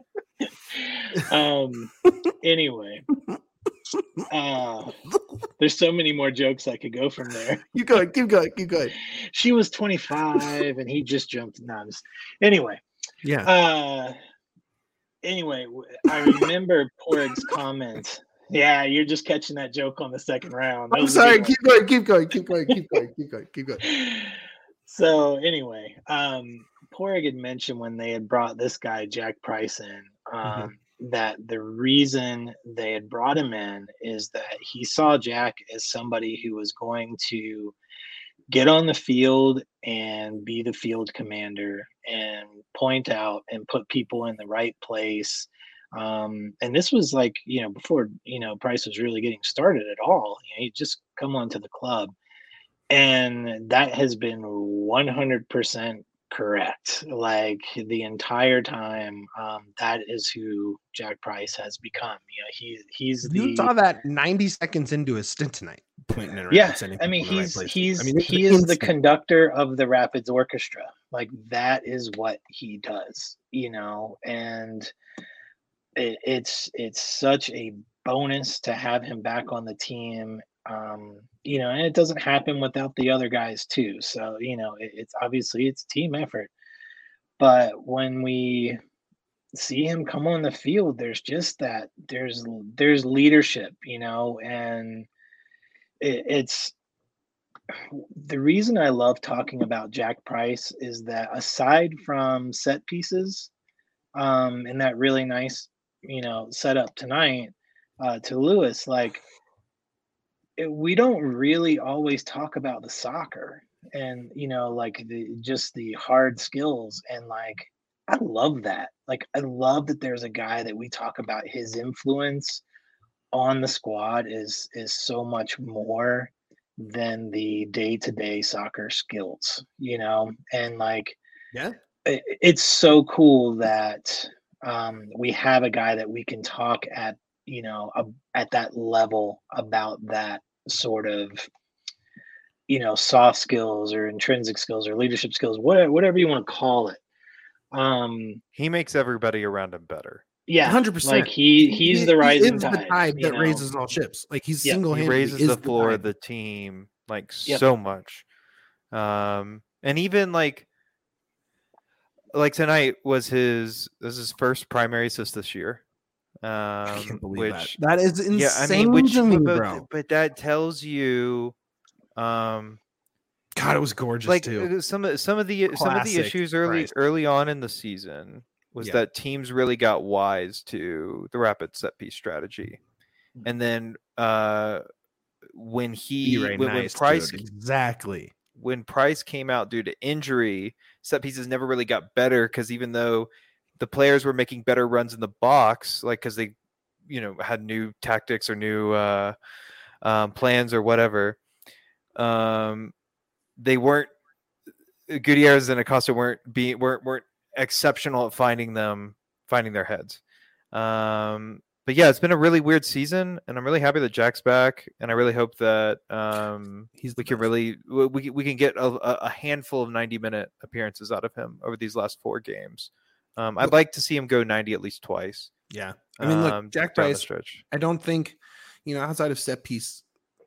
Anyway, there's so many more jokes I could go from there. Keep going. She was 25 and he just jumped nuns. Anyway. Yeah. Anyway, I remember Porig's comment. Yeah, you're just catching that joke on the second round. I'm sorry. Keep going. So anyway, Porig had mentioned when they had brought this guy, Jack Price, in, that the reason they had brought him in is that he saw Jack as somebody who was going to get on the field and be the field commander and point out and put people in the right place. And this was like, before, Price was really getting started at all. He'd just come onto the club. And that has been 100% correct. Like the entire time, that is who Jack Price has become. He's you saw that 90 seconds into his stint tonight. Pointing around, yeah, I mean, he is the conductor of the Rapids Orchestra. Like that is what he does, and it's such a bonus to have him back on the team. And it doesn't happen without the other guys too. So, it's obviously it's team effort. But when we see him come on the field, there's just that there's leadership, and it's the reason I love talking about Jack Price is that aside from set pieces, and that really nice, setup tonight to Lewis, like, we don't really always talk about the soccer and like the hard skills, and like I love that. Like I love that there's a guy that we talk about his influence on the squad is so much more than the day-to-day soccer skills, and like it's so cool that we have a guy that we can talk at at that level about that sort of, soft skills or intrinsic skills or leadership skills, whatever you want to call it. He makes everybody around him better. Yeah, 100%. Like he's the rising tide. The tide that raises all ships. Like he's single-handedly he raises the floor of the team like so much. And even like tonight was his first primary assist this year. I can't believe that is insane to me, bro. But that tells you, God, it was gorgeous too. Some of the issues early on in the season was that teams really got wise to the rapid set piece strategy, and then when Price came out due to injury, set pieces never really got better because even though the players were making better runs in the box, like because they, had new tactics or new plans or whatever. They weren't. Gutierrez and Acosta weren't exceptional at finding their heads. But but yeah, it's been a really weird season, and I'm really happy that Jack's back, and I really hope that we can get a handful of 90-minute appearances out of him over these last 4 games. I'd like to see him go 90 at least twice. Yeah, I mean, look, Jack down the Price. stretch. I don't think, outside of set pieces,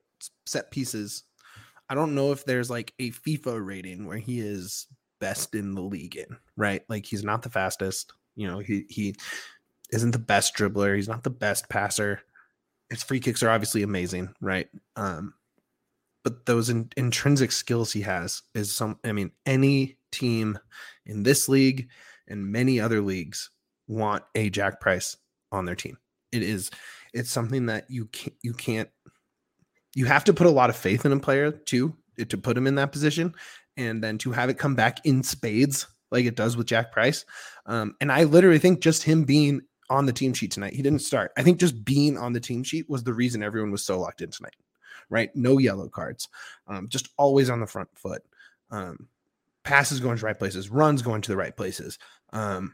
I don't know if there's like a FIFA rating where he is best in the league in, right? Like he's not the fastest, he isn't the best dribbler, he's not the best passer. His free kicks are obviously amazing, right? But those intrinsic skills he has is any team in this league and many other leagues want a Jack Price on their team. It's something that you have to put a lot of faith in a player to put him in that position, and then to have it come back in spades like it does with Jack Price. And I literally think just him being on the team sheet tonight, he didn't start. I think just being on the team sheet was the reason everyone was so locked in tonight, right? No yellow cards, just always on the front foot. Passes going to right places, runs going to the right places. I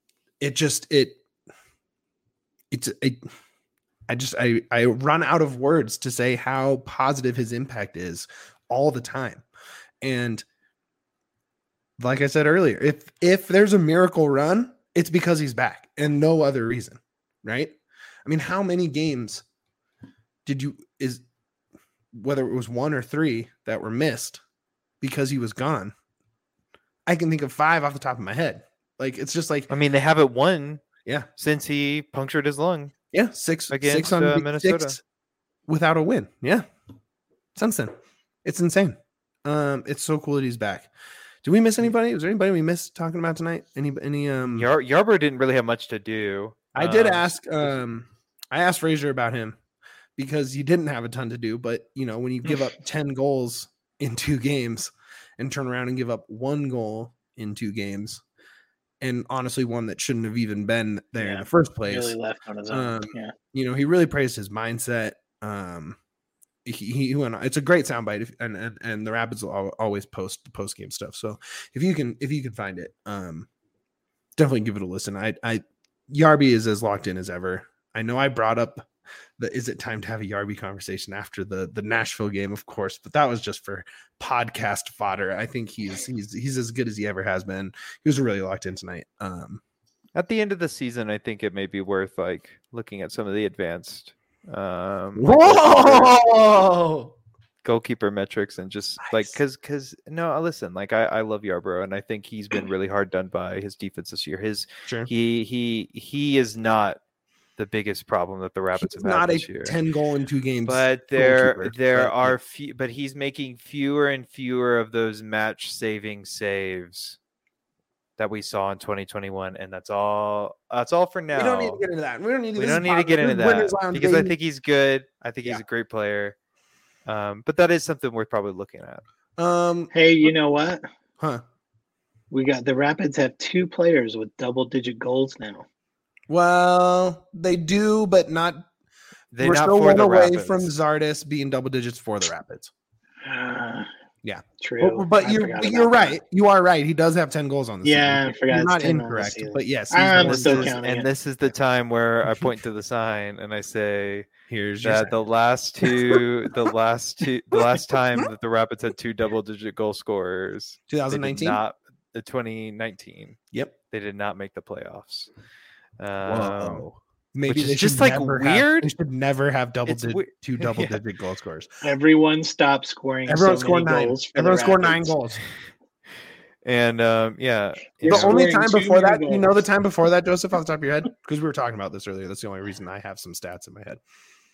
run out of words to say how positive his impact is all the time. And like I said earlier, if there's a miracle run, it's because he's back and no other reason, right? I mean, how many games whether it was 1 or 3 that were missed because he was gone? I can think of 5 off the top of my head. Like, it's just like, I mean, they haven't won since he punctured his lung. Yeah, 6 against on Minnesota 6 without a win. Yeah, since then, it's insane. It's so cool that he's back. Did we miss anybody? Was there anybody we missed talking about tonight? Any Yarbrough didn't really have much to do. I did ask. I asked Frazier about him because he didn't have a ton to do. But when you give up 10 goals in 2 games and turn around and give up 1 goal in 2 games, and honestly, one that shouldn't have even been there in the first place. Really left on his own. He really praised his mindset. He went. It's a great soundbite, and the Rapids will always post the post game stuff. So if you can find it, definitely give it a listen. Yarby is as locked in as ever. I know I brought up is it time to have a Yarby conversation after the Nashville game, of course, but that was just for podcast fodder. I think he's as good as he ever has been. He was really locked in tonight. At the end of the season, I think it may be worth looking at some of the advanced goalkeeper metrics and just nice. Because listen, I love Yarbrough, and I think he's been really hard done by his defense this year. He is not the biggest problem that the Rapids have had this year. 10 goal in 2 games, but but he's making fewer and fewer of those match saving saves that we saw in 2021, and that's all for now. We don't need to get into that. We don't need to get into that because I think he's good. I think he's a great player. But that is something worth probably looking at. Hey, you know what? Huh? We got the Rapids have 2 players with double-digit goals now. Well, they do, but not. We're still one away from Zardes being double digits for the Rapids. Yeah, true. But you're right. That. You are right. He does have 10 goals on the season. I forgot. You're not incorrect, but yes, I'm still counting. And this is the time where I point to the sign and I say, "Here's that the last time that the Rapids had 2 double-digit goal scorers, 2019, not 2019. Yep, they did not make the playoffs. Whoa. Maybe they just weird. They should never have 2 double-digit goal scorers. Everyone stopped scoring. Everyone scored 9 goals. Everyone scored 9 goals. And the only time before that, the time before that, Joseph, off the top of your head, because we were talking about this earlier. That's the only reason I have some stats in my head.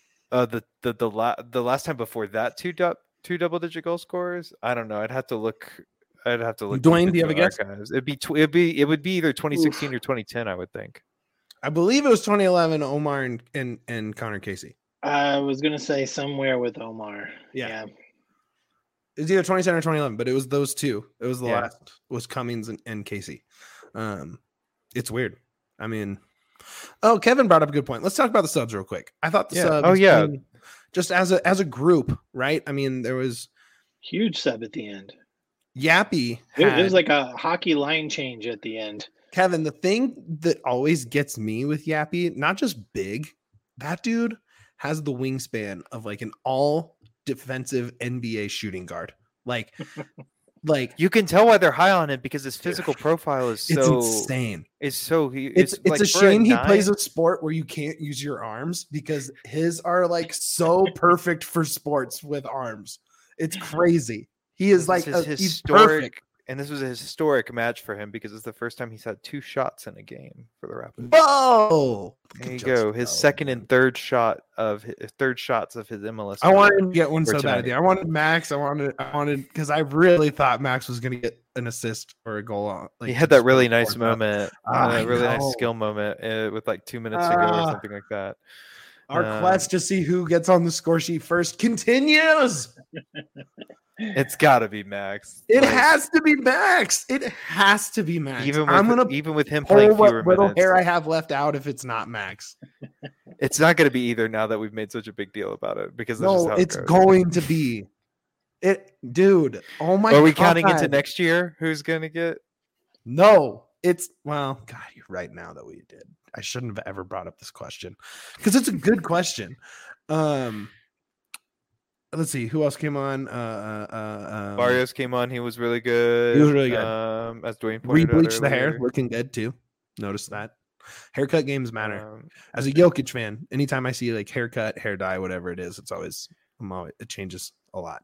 The last time before that, 2 double-digit goal scorers. I don't know. I'd have to look. Dwayne, do you have a guess? It would be either 2016 or 2010. I would think. I believe it was 2011, Omar and Connor Casey. I was going to say somewhere with Omar. Yeah. It was either 2010 or 2011, but it was those 2. It was the last. Was Cummings and Casey. It's weird. I mean, Kevin brought up a good point. Let's talk about the subs real quick. I thought the subs. Just as a group, right? I mean, there was huge sub at the end. Yappy. It was like a hockey line change at the end. Kevin, the thing that always gets me with Yappy, not just big, that dude has the wingspan of like an all defensive NBA shooting guard. Like You can tell why they're high on him because his physical profile is it's so insane. it's It's a shame he plays a sport where you can't use your arms because his are like so perfect for sports with arms. It's crazy. He is like he's historic, perfect. and this was a historic match for him because it's the first time he's had 2 shots in a game for the Rapids. Whoa! There you go. His second and third shots of his MLS. I wanted to get one so tonight. bad. I wanted Max. I wanted because I really thought Max was going to get an assist or a goal on. He had that really nice moment, I really nice know. skill moment with like 2 minutes to go or something like that. Our quest to see who gets on the score sheet first continues. It's got to be Max. It has to be Max. It has to be Max. Even with him playing what fewer little minutes, hair I have left out if it's not Max. it's not going to be either. Now that we've made such a big deal about it, because that's just No, how it's it goes. going to be it, dude. Oh my! Are we God. counting into next year? Who's going to get? No, it's well, God, you're right now that we did. I shouldn't have ever brought up this question because it's a good question. Let's see who else came on. Barrios came on. He was really good. He was really good. As Dwayne pointed out Rebleached the hair, earlier. looking good too. Notice that. Haircut games matter. As a Jokic fan, anytime I see like haircut, hair dye, whatever it is, it changes a lot.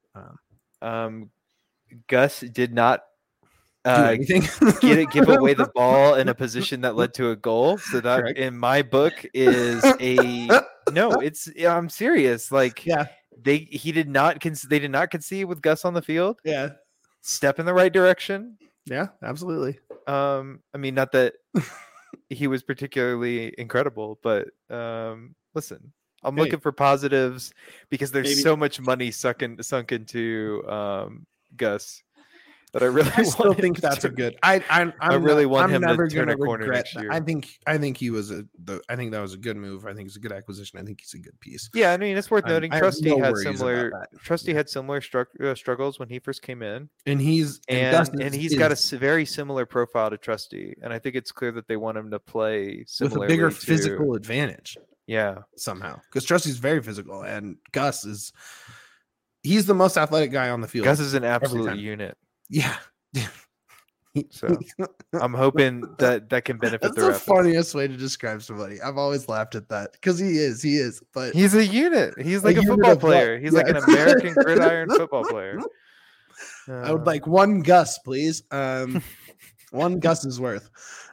Gus did not Do anything. give away the ball in a position that led to a goal. So that, Correct. in my book, is a no. I'm serious. Like, Yeah. they did not concede with Gus on the field. Yeah. Step in the right direction. Yeah, absolutely. I mean, not that he was particularly incredible, but listen, I'm Hey. looking for positives because there's Maybe- so much money sunk into Gus that I really I still want him think to that's a turn- good. I really want I'm him to never turn gonna a corner regret next that. year. I think he was I think that was a good move. I think it's a good acquisition. I think he's a good piece. Yeah, I mean, it's worth I'm- noting. I have Trusty no had worries about similar. that. Trusty had similar struggles when he first came in, And he's and Gus he's got a very similar profile to Trusty, and I think it's clear that they want him to play with similarly a bigger to- physical advantage Yeah, somehow because Trusty's very physical and Gus he's the most athletic guy on the field. Gus is an absolute time. unit. Yeah. So I'm hoping that can benefit That's the the Rapids. funniest way to describe somebody. I've always laughed at that because he is. But He's a unit. He's like a unit football of what? player. He's like Yeah. an American gridiron football player. I would like one Gus, please. One Gus's worth.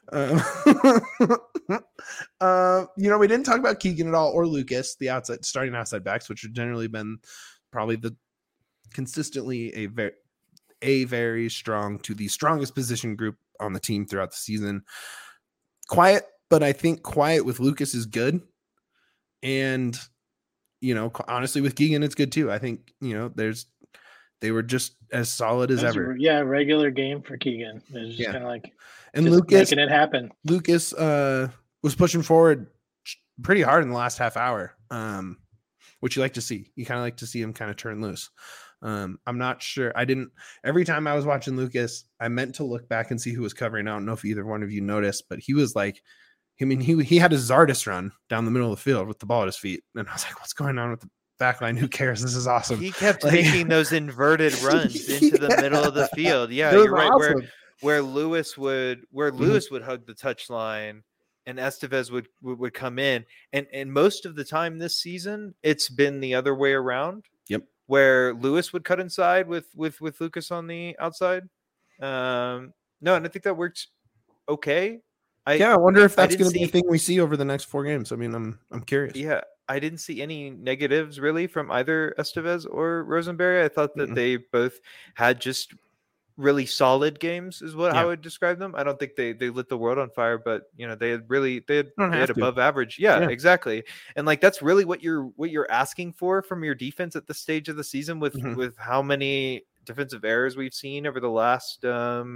We didn't talk about Keegan at all or Lucas, the starting outside backs, which have generally been probably consistently a very strong to the strongest position group on the team throughout the season. Quiet, but I think quiet with Lucas is good. And, honestly, with Keegan, it's good too. I think, they were just as solid as ever. Yeah, regular game for Keegan. It was just Yeah. kind of like And just Lucas making it happen. Lucas was pushing forward pretty hard in the last half hour, which you like to see. You kind of like to see him kind of turn loose. I'm not sure. Every time I was watching Lucas, I meant to look back and see who was covering. I don't know if either one of you noticed, but he was like, he had a Zardes run down the middle of the field with the ball at his feet. And I was like, what's going on with the back line? Who cares? This is awesome. He kept Like- making those inverted runs into the middle of the field. Yeah, It was you're right. awesome. Where Lewis would hug the touchline and Estevez would come in. And most of the time this season, it's been the other way around. Yep. Where Lewis would cut inside with Lucas on the outside. No, and I think that works okay. I wonder if that's didn't going to be a see- thing we see over the next 4 games. I mean, I'm curious. Yeah, I didn't see any negatives really from either Estevez or Rosenberry. I thought that they both had just really solid games is what I would describe them. I don't think they lit the world on fire, but they had above average. Yeah, exactly. And like that's really what you're asking for from your defense at this stage of the season with how many defensive errors we've seen over the last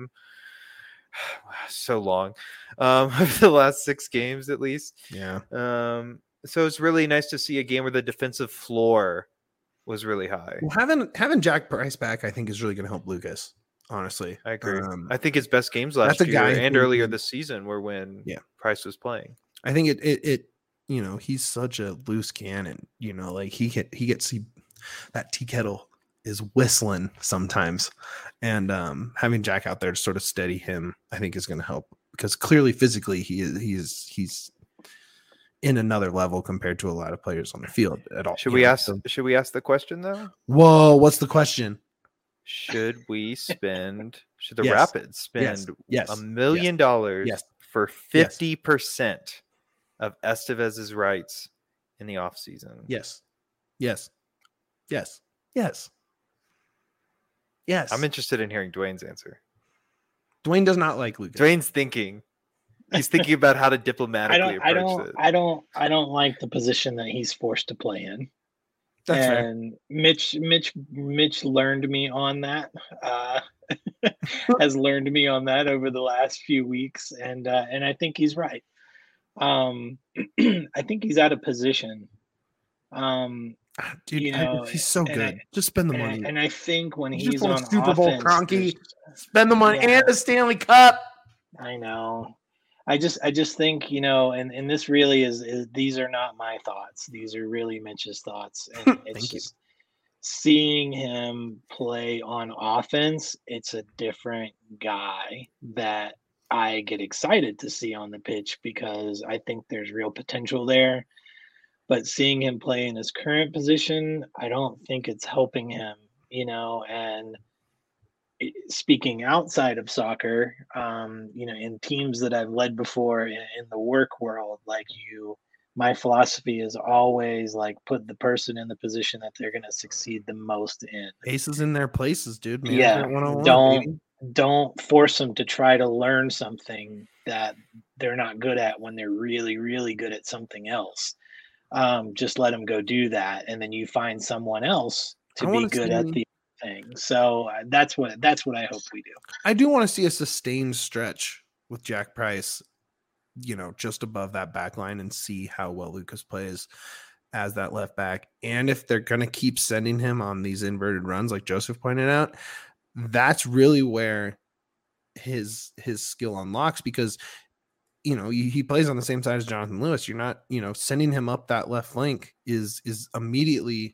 so long over the last 6 games at least. Yeah. So it's really nice to see a game where the defensive floor was really high. Well, having Jack Price back, I think, is really going to help Lucas. Honestly, I agree. I think his best games last that's a year guy and who- earlier this season were when Price was playing. I think he's such a loose cannon. Like that tea kettle is whistling sometimes, and having Jack out there to sort of steady him, I think, is going to help, because clearly physically he's in another level compared to a lot of players on the field at all. Should we ask the question though? Whoa, what's the question? Should the Yes. Rapids spend Yes. $1 million Yes. for 50% of Estevez's rights in the offseason? Yes. I'm interested in hearing Dwayne's answer. Dwayne does not like Lucas. Dwayne's thinking. He's thinking about how to diplomatically approach it. I don't like the position that he's forced to play in. That's and fair. Mitch learned me on that. Has learned me on that over the last few weeks, and I think he's right. I think he's out of position. Dude, he's so good. Just spend the money. And I think when You he's just won on a Super Bowl, offense, Kroenke. Spend the money and the Stanley Cup. I know. I just think, and this really is these are not my thoughts. These are really Mitch's thoughts. And it's just seeing him play on offense, it's a different guy that I get excited to see on the pitch, because I think there's real potential there. But seeing him play in his current position, I don't think it's helping him, and speaking outside of soccer, in teams that I've led before in the work world, my philosophy is always put the person in the position that they're going to succeed the most in. Aces in their places, dude. Don't force them to try to learn something that they're not good at when they're really, really good at something else. Just let them go do that, and then you find someone else to be good at the thing. So that's what I hope we do. I do want to see a sustained stretch with Jack Price, just above that back line, and see how well Lucas plays as that left back. And if they're going to keep sending him on these inverted runs, like Joseph pointed out, that's really where his skill unlocks, because he plays on the same side as Jonathan Lewis. You're not, sending him up that left flank is immediately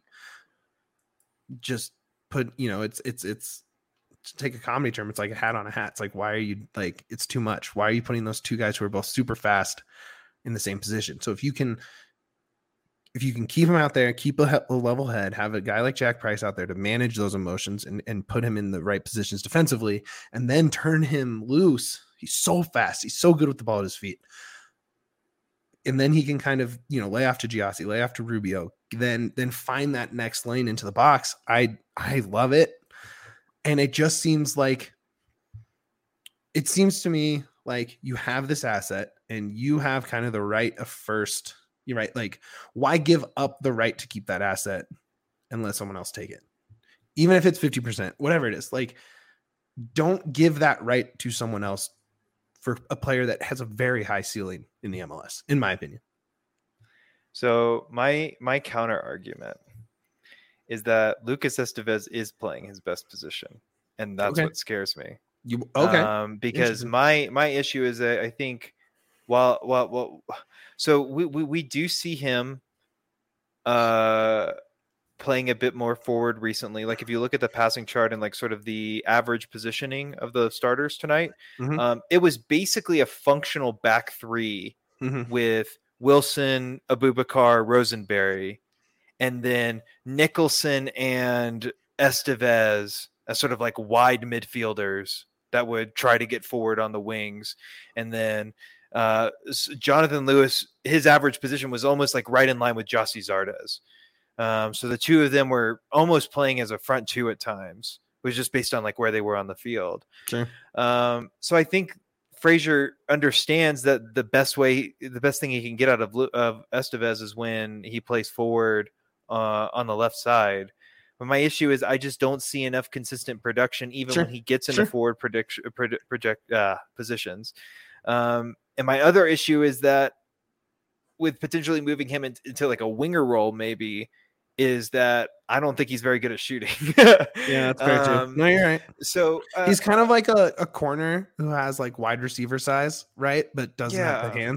just put, it's to take a comedy term, it's like a hat on a hat. It's like, why are you it's too much. Why are you putting those two guys who are both super fast in the same position? So if you can keep him out there, keep a level head, have a guy like Jack Price out there to manage those emotions and put him in the right positions defensively, and then turn him loose. He's so fast. He's so good with the ball at his feet. And then he can kind of, lay off to Giassi, lay off to Rubio, then find that next lane into the box. I love it. And it just seems to me like you have this asset and you have kind of the right of first. You're right. Why give up the right to keep that asset and let someone else take it? Even if it's 50%, whatever it is, don't give that right to someone else for a player that has a very high ceiling in the MLS, in my opinion. So my counter argument is that Lucas Estevez is playing his best position, and that's what scares me. Because my issue is that I think so we do see him playing a bit more forward recently. If you look at the passing chart and sort of the average positioning of the starters tonight, it was basically a functional back three with Wilson, Abubakar, Rosenberry, and then Nicholson and Estevez as sort of wide midfielders that would try to get forward on the wings. And then Jonathan Lewis, his average position was almost right in line with Gyasi Zardes. So the two of them were almost playing as a front two at times, which is just based on where they were on the field. Sure. So I think Frazier understands that the best thing he can get out of Estevez is when he plays forward on the left side. But my issue is I just don't see enough consistent production, even when he gets into forward positions. And my other issue is that with potentially moving him into a winger role, maybe, is that I don't think he's very good at shooting. Yeah, that's fair too. No, you're right. So he's kind of like a corner who has wide receiver size, right? But doesn't have the hands.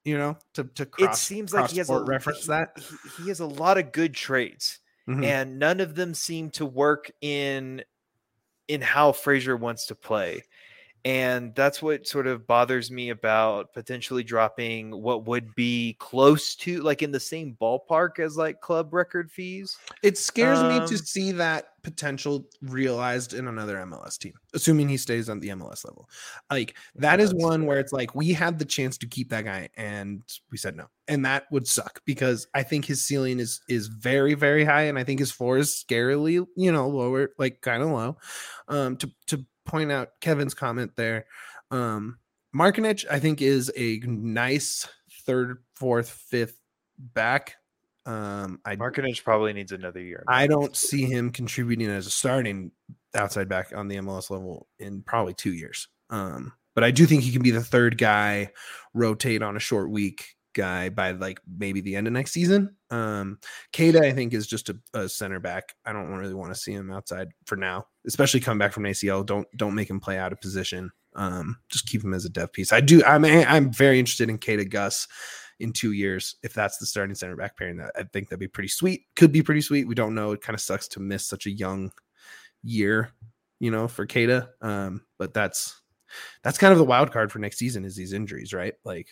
to It seems like he has reference that. He has a lot of good traits, Mhm. and none of them seem to work in how Frazier wants to play. And that's what sort of bothers me about potentially dropping what would be close to like in the same ballpark as like club record fees. It scares me to see that potential realized in another MLS team, assuming he stays on the MLS level. Like that is one where it's like we had the chance to keep that guy and we said no. And that would suck because I think his ceiling is very, very high. And I think his floor is scarily, lower, like kind of low. To point out Kevin's comment there, Markinich, I think, is a nice third, fourth, fifth back. Markinich probably needs another year. I don't see him contributing as a starting outside back on the MLS level in probably 2 years. But I do think he can be the third guy, rotate on a short week guy by like maybe the end of next season. Keita, I think, is just a center back. I don't really want to see him outside for now, especially coming back from an ACL. Don't make him play out of position. Just keep him as a depth piece. I'm very interested in Keita Gus in 2 years. If that's the starting center back pairing, that I think that'd be pretty sweet. Could be pretty sweet. We don't know. It kind of sucks to miss such a young year, for Keita. But that's kind of the wild card for next season is these injuries, right? Like,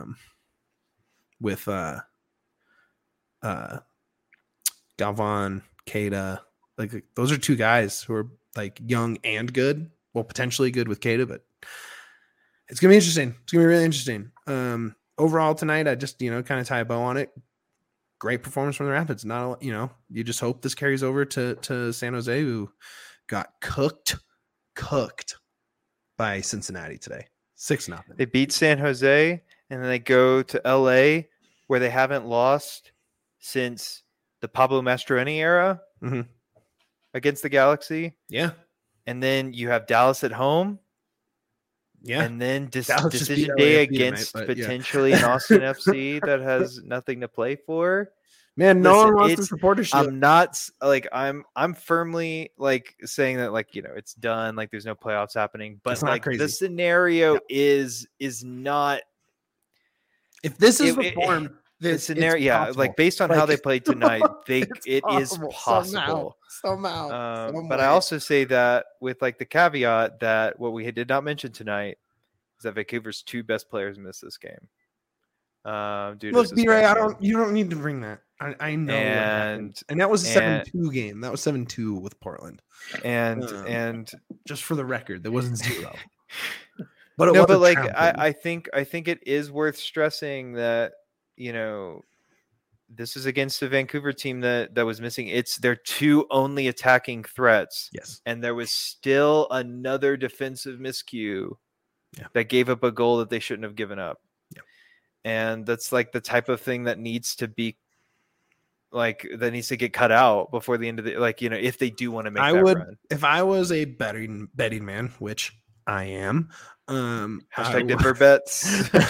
with Galvan, Keita, like those are two guys who are like young and good. Well, potentially good with Keita, but it's gonna be interesting. It's gonna be really interesting. Overall tonight, I just kind of tie a bow on it. Great performance from the Rapids. Not you just hope this carries over to San Jose, who got cooked by Cincinnati today, 6-0. They beat San Jose, and then they go to LA, where they haven't lost since the Pablo Mastroeni era against the Galaxy. Yeah. And then you have Dallas at home. Yeah. And then decision day against potentially an Austin FC that has nothing to play for. Man, no one wants to support us. I'm not like I'm firmly like saying that like it's done, like there's no playoffs happening. But like crazy. The scenario is not. If this is the form, the scenario, like based on how they played tonight, it is possible somehow. But I also say that with like the caveat that what we did not mention tonight is that Vancouver's two best players missed this game. Look, B-Ray, you don't need to bring that. I know, and that was a 7-2 game. That was 7-2 with Portland, and just for the record, there wasn't 0. But like I think it is worth stressing that this is against a Vancouver team that was missing. It's their two only attacking threats. Yes, and there was still another defensive miscue that gave up a goal that they shouldn't have given up. Yeah, and that's like the type of thing that needs to be. Like that needs to get cut out before the end of the if they do want to make run. If I was a betting man, which I am, hashtag Denver bets.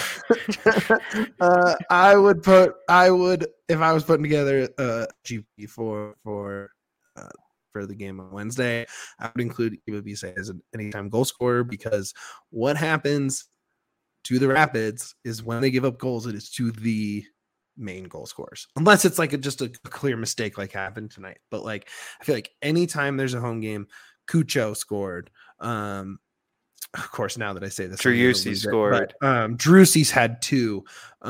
I would if I was putting together a GP for the game on Wednesday, I would include Iwabise as an anytime goal scorer, because what happens to the Rapids is when they give up goals, it is to the main goal scorers, unless it's like just a clear mistake like happened tonight. But like I feel like anytime there's a home game, Cucho scored. Of course, now that I say this, Driussi scored. Driussi's had 2.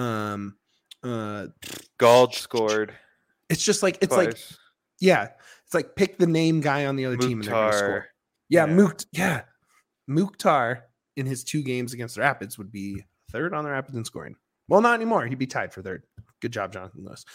Gald scored. It's just like it's twice. It's like pick the name guy on the other team and they're gonna score. Mukhtar in his 2 games against the Rapids would be third on the Rapids in scoring. Well, not anymore. He'd be tied for third. Good job, Jonathan Lewis.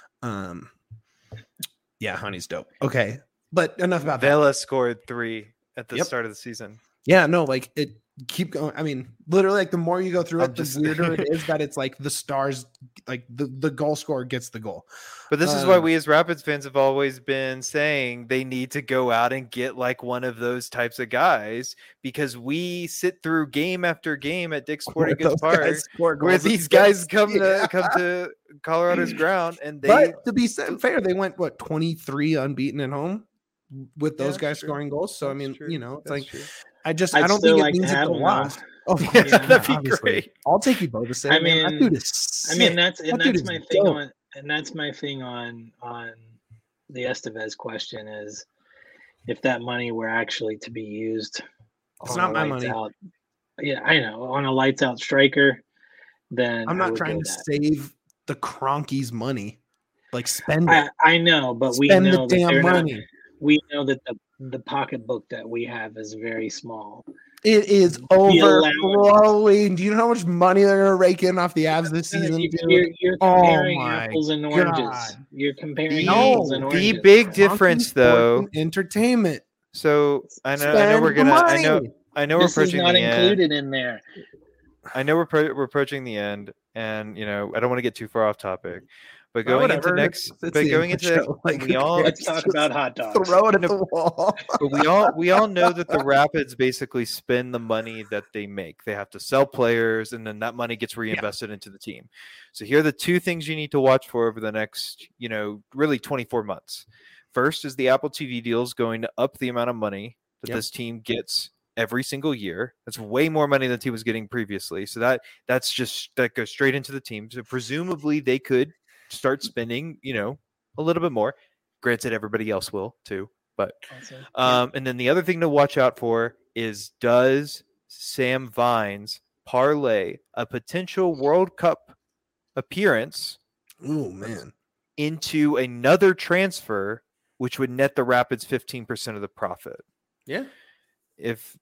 Honey's dope. Okay, but enough about that. Vela scored 3 at the start of the season. Yeah, no, like it. Keep going. I mean, literally, like the more you go through it, the weirder it is that it's like the stars, like the goal scorer gets the goal. But this is why we as Rapids fans have always been saying they need to go out and get like one of those types of guys, because we sit through game after game at Dick's Sporting Goods Park where these guys come to Colorado's ground, and they. But to be fair, they went 23 unbeaten at home with those guys scoring goals. So I mean, it's like. I don't think it means it can last. Oh, Yeah, that'd be obviously. great. I'll take you both to say, I man, that mean- dude is sick. that's That dude is my thing dope. on the Estevez question is if that money were actually to be used It's on not a my lights money. out. Yeah, I know, on a lights out striker, then I'm I not would trying go to that. save the Cronkies money. Like spend it. I know, but we Spend know the that damn they're not. money. We know that the pocketbook that we have is very small. It is The overflowing. Do you know how much money they're gonna rake in off the Avs this season, dude? You're Oh comparing my apples and oranges. God. You're comparing No, apples and the oranges. big man. difference, Cronky though. sports and entertainment. So I know Spend we're the gonna. money. I know we're This is approaching not the end. included in there. I know we're approaching the end, and I don't want to get too far off topic, but Well, going into whatever. next, It's but the going end of into the show. Like, we who all cares? Let's talk Just about hot dogs. Throw it at the wall. but we all know that the Rapids basically spend the money that they make. They have to sell players, and then that money gets reinvested into the team. So here are the two things you need to watch for over the next, really 24 months. First is the Apple TV deal is going to up the amount of money that this team gets every single year. That's way more money than the team was getting previously. So that goes straight into the team. So presumably they could start spending, a little bit more. Granted, everybody else will too. But and then the other thing to watch out for is, does Sam Vines parlay a potential World Cup appearance Oh man. into another transfer, which would net the Rapids 15% of the profit? Yeah. If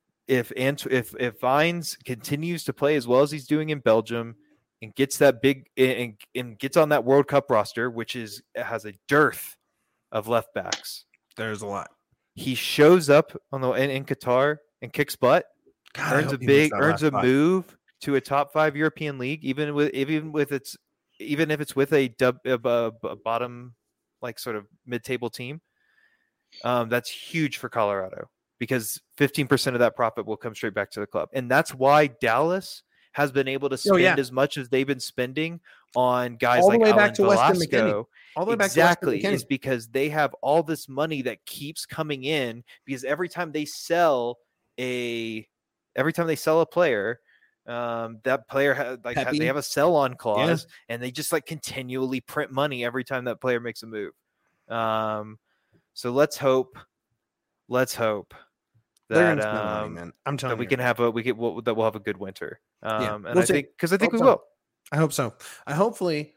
Vines continues to play as well as he's doing in Belgium and gets that big and gets on that World Cup roster, which has a dearth of left backs, There's a lot. he shows up in Qatar and kicks butt, God, I earns hope a he makes that last a spot. move to a top 5 European league, even if it's with a bottom, like sort of mid-table team. That's huge for Colorado, because 15% of that profit will come straight back to the club. And that's why Dallas has been able to spend as much as they've been spending on guys all the like way Alan back to Weston McKennie. Velasco. All the way back to Weston Exactly, McKennie. is because they have all this money that keeps coming in, because every time they sell a player, that player they have a sell-on clause, and they just continually print money every time that player makes a move. So let's hope that money, man. I'm telling that you. we'll have a good winter. And we'll I see. think we so. will. I hope so. Hopefully,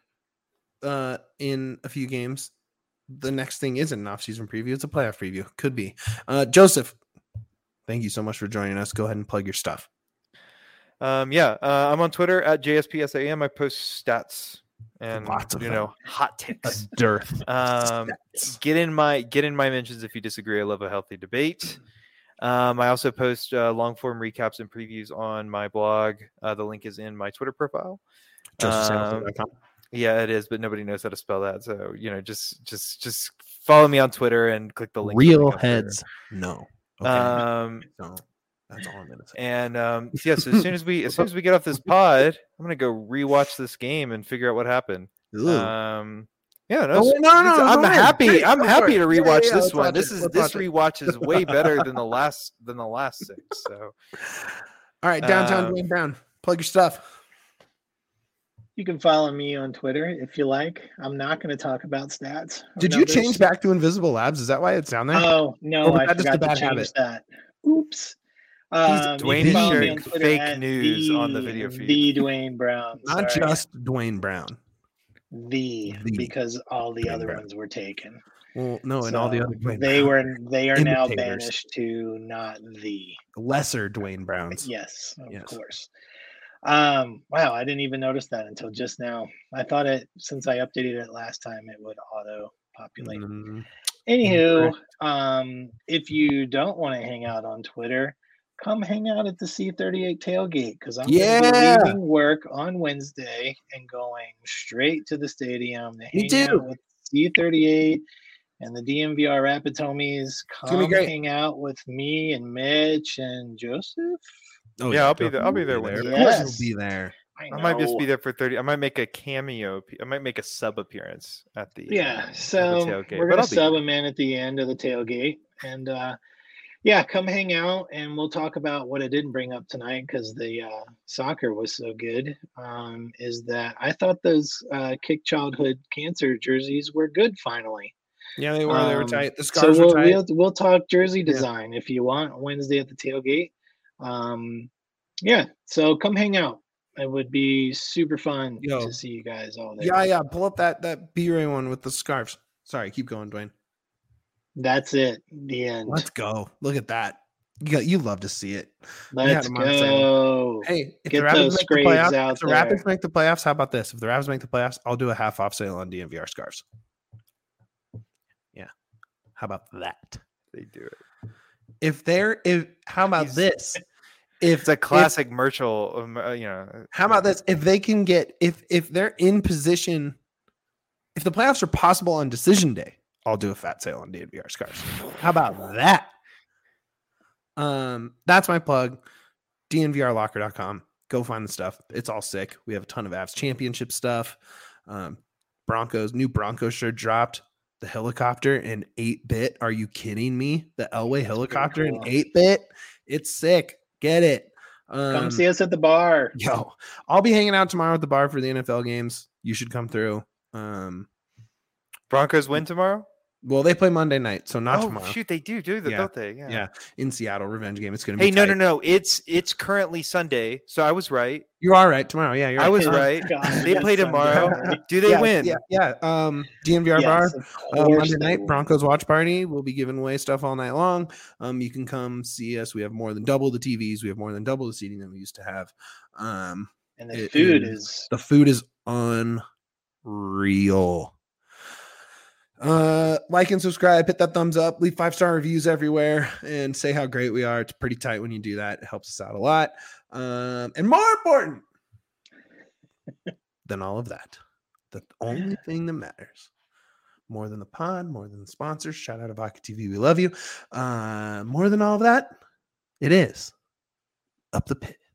in a few games, the next thing isn't an off-season preview; it's a playoff preview. Could be. Joseph, thank you so much for joining us. Go ahead and plug your stuff. I'm on Twitter at JSPSAM. I post stats and Lots of hot takes. A dearth. Get in my mentions if you disagree. I love a healthy debate. I also post long form recaps and previews on my blog. The link is in my Twitter profile. JosephSamilton.com. Yeah, it is, but nobody knows how to spell that. So just follow me on Twitter and click the link. Real heads. No. Okay. So that's all I'm gonna say. And so as soon as we get off this pod, I'm gonna go rewatch this game and figure out what happened. I'm happy. I'm happy to rewatch this one. This rewatch is way better than the last 6. So, all right, downtown Dwayne Brown, plug your stuff. You can follow me on Twitter if you like. I'm not going to talk about stats. Did you change back to Invisible Labs? Is that why it's down there? Oh no, I forgot to change that. Oops. Dwayne is sharing fake news on the video feed. The Dwayne Brown, not just Dwayne Brown. Because all the Dwayne other Brown. ones were taken. Well, no, and all the other Dwayne they are now imitators. banished to not the lesser Dwayne Browns. Yes, of course. Wow, I didn't even notice that until just now. I thought since I updated it last time, it would auto populate. Anywho, if you don't want to hang out on Twitter, come hang out at the C38 tailgate, because I'm going to be leaving work on Wednesday and going straight to the stadium to hang out with C38 and the DMVR Rapids homies. Come hang out with me and Mitch and Joseph. Oh, yeah, I'll be there. I'll be there Wednesday. Of course you'll be there. I might just be there for 30. I might make a cameo. I might make a sub appearance at the so tailgate. We're gonna sub him in at the end of the tailgate, and Yeah, come hang out and we'll talk about what I didn't bring up tonight because the soccer was so good. Is that I thought those Kick Childhood Cancer jerseys were good finally. Yeah, they were. They were tight. The So scarves were tight. we'll talk jersey Yeah. design if you want Wednesday at the tailgate. Yeah, so come hang out. It would be super fun Yo. to see you guys all there. Yeah. Pull up that B-Ray one with the scarves. Sorry, keep going, Dwayne. That's it. The end. Let's go. Look at that. You love to see it. Let's go. Hey, if Get the Rapids those make the scrapes playoffs, out if the Rapids there. make the playoffs, how about this? If the Rapids make the playoffs, I'll do a half off sale on DNVR scarves. Yeah. How about that? They do it. How about He's- this? It's a classic Merchel, How about this? If they can get if they're in position, if the playoffs are possible on decision day, I'll do a fat sale on DNVR scarves. How about that? That's my plug. DNVRlocker.com. Go find the stuff. It's all sick. We have a ton of Avs championship stuff. New Broncos shirt dropped. The helicopter in 8-bit. Are you kidding me? The Elway helicopter in 8-bit. It's sick. Get it. Come see us at the bar. Yo, I'll be hanging out tomorrow at the bar for the NFL games. You should come through. Broncos win tomorrow? Well, they play Monday night, so not tomorrow. Shoot, they do, Yeah. don't they? Yeah, in Seattle, revenge game. It's gonna be. Hey, tight. no. It's currently Sunday, so I was right. You are right. Tomorrow, yeah, you're I was Oh, right. God, They yes, play Sunday. tomorrow. Do they yeah, win? Yeah. DNVR bar. Yes, of course Monday they night will. Broncos watch party. We'll be giving away stuff all night long. You can come see us. We have more than double the TVs. We have more than double the seating that we used to have. And the it food is- is The food is unreal. Like and subscribe, hit that thumbs up, leave 5-star reviews everywhere, and say how great we are. It's pretty tight when you do that. It helps us out a lot. And more important than all of that, the only thing that matters more than the pod, more than the sponsors, shout out to Vodka TV, we love you. More than all of that, it is Up the Pit.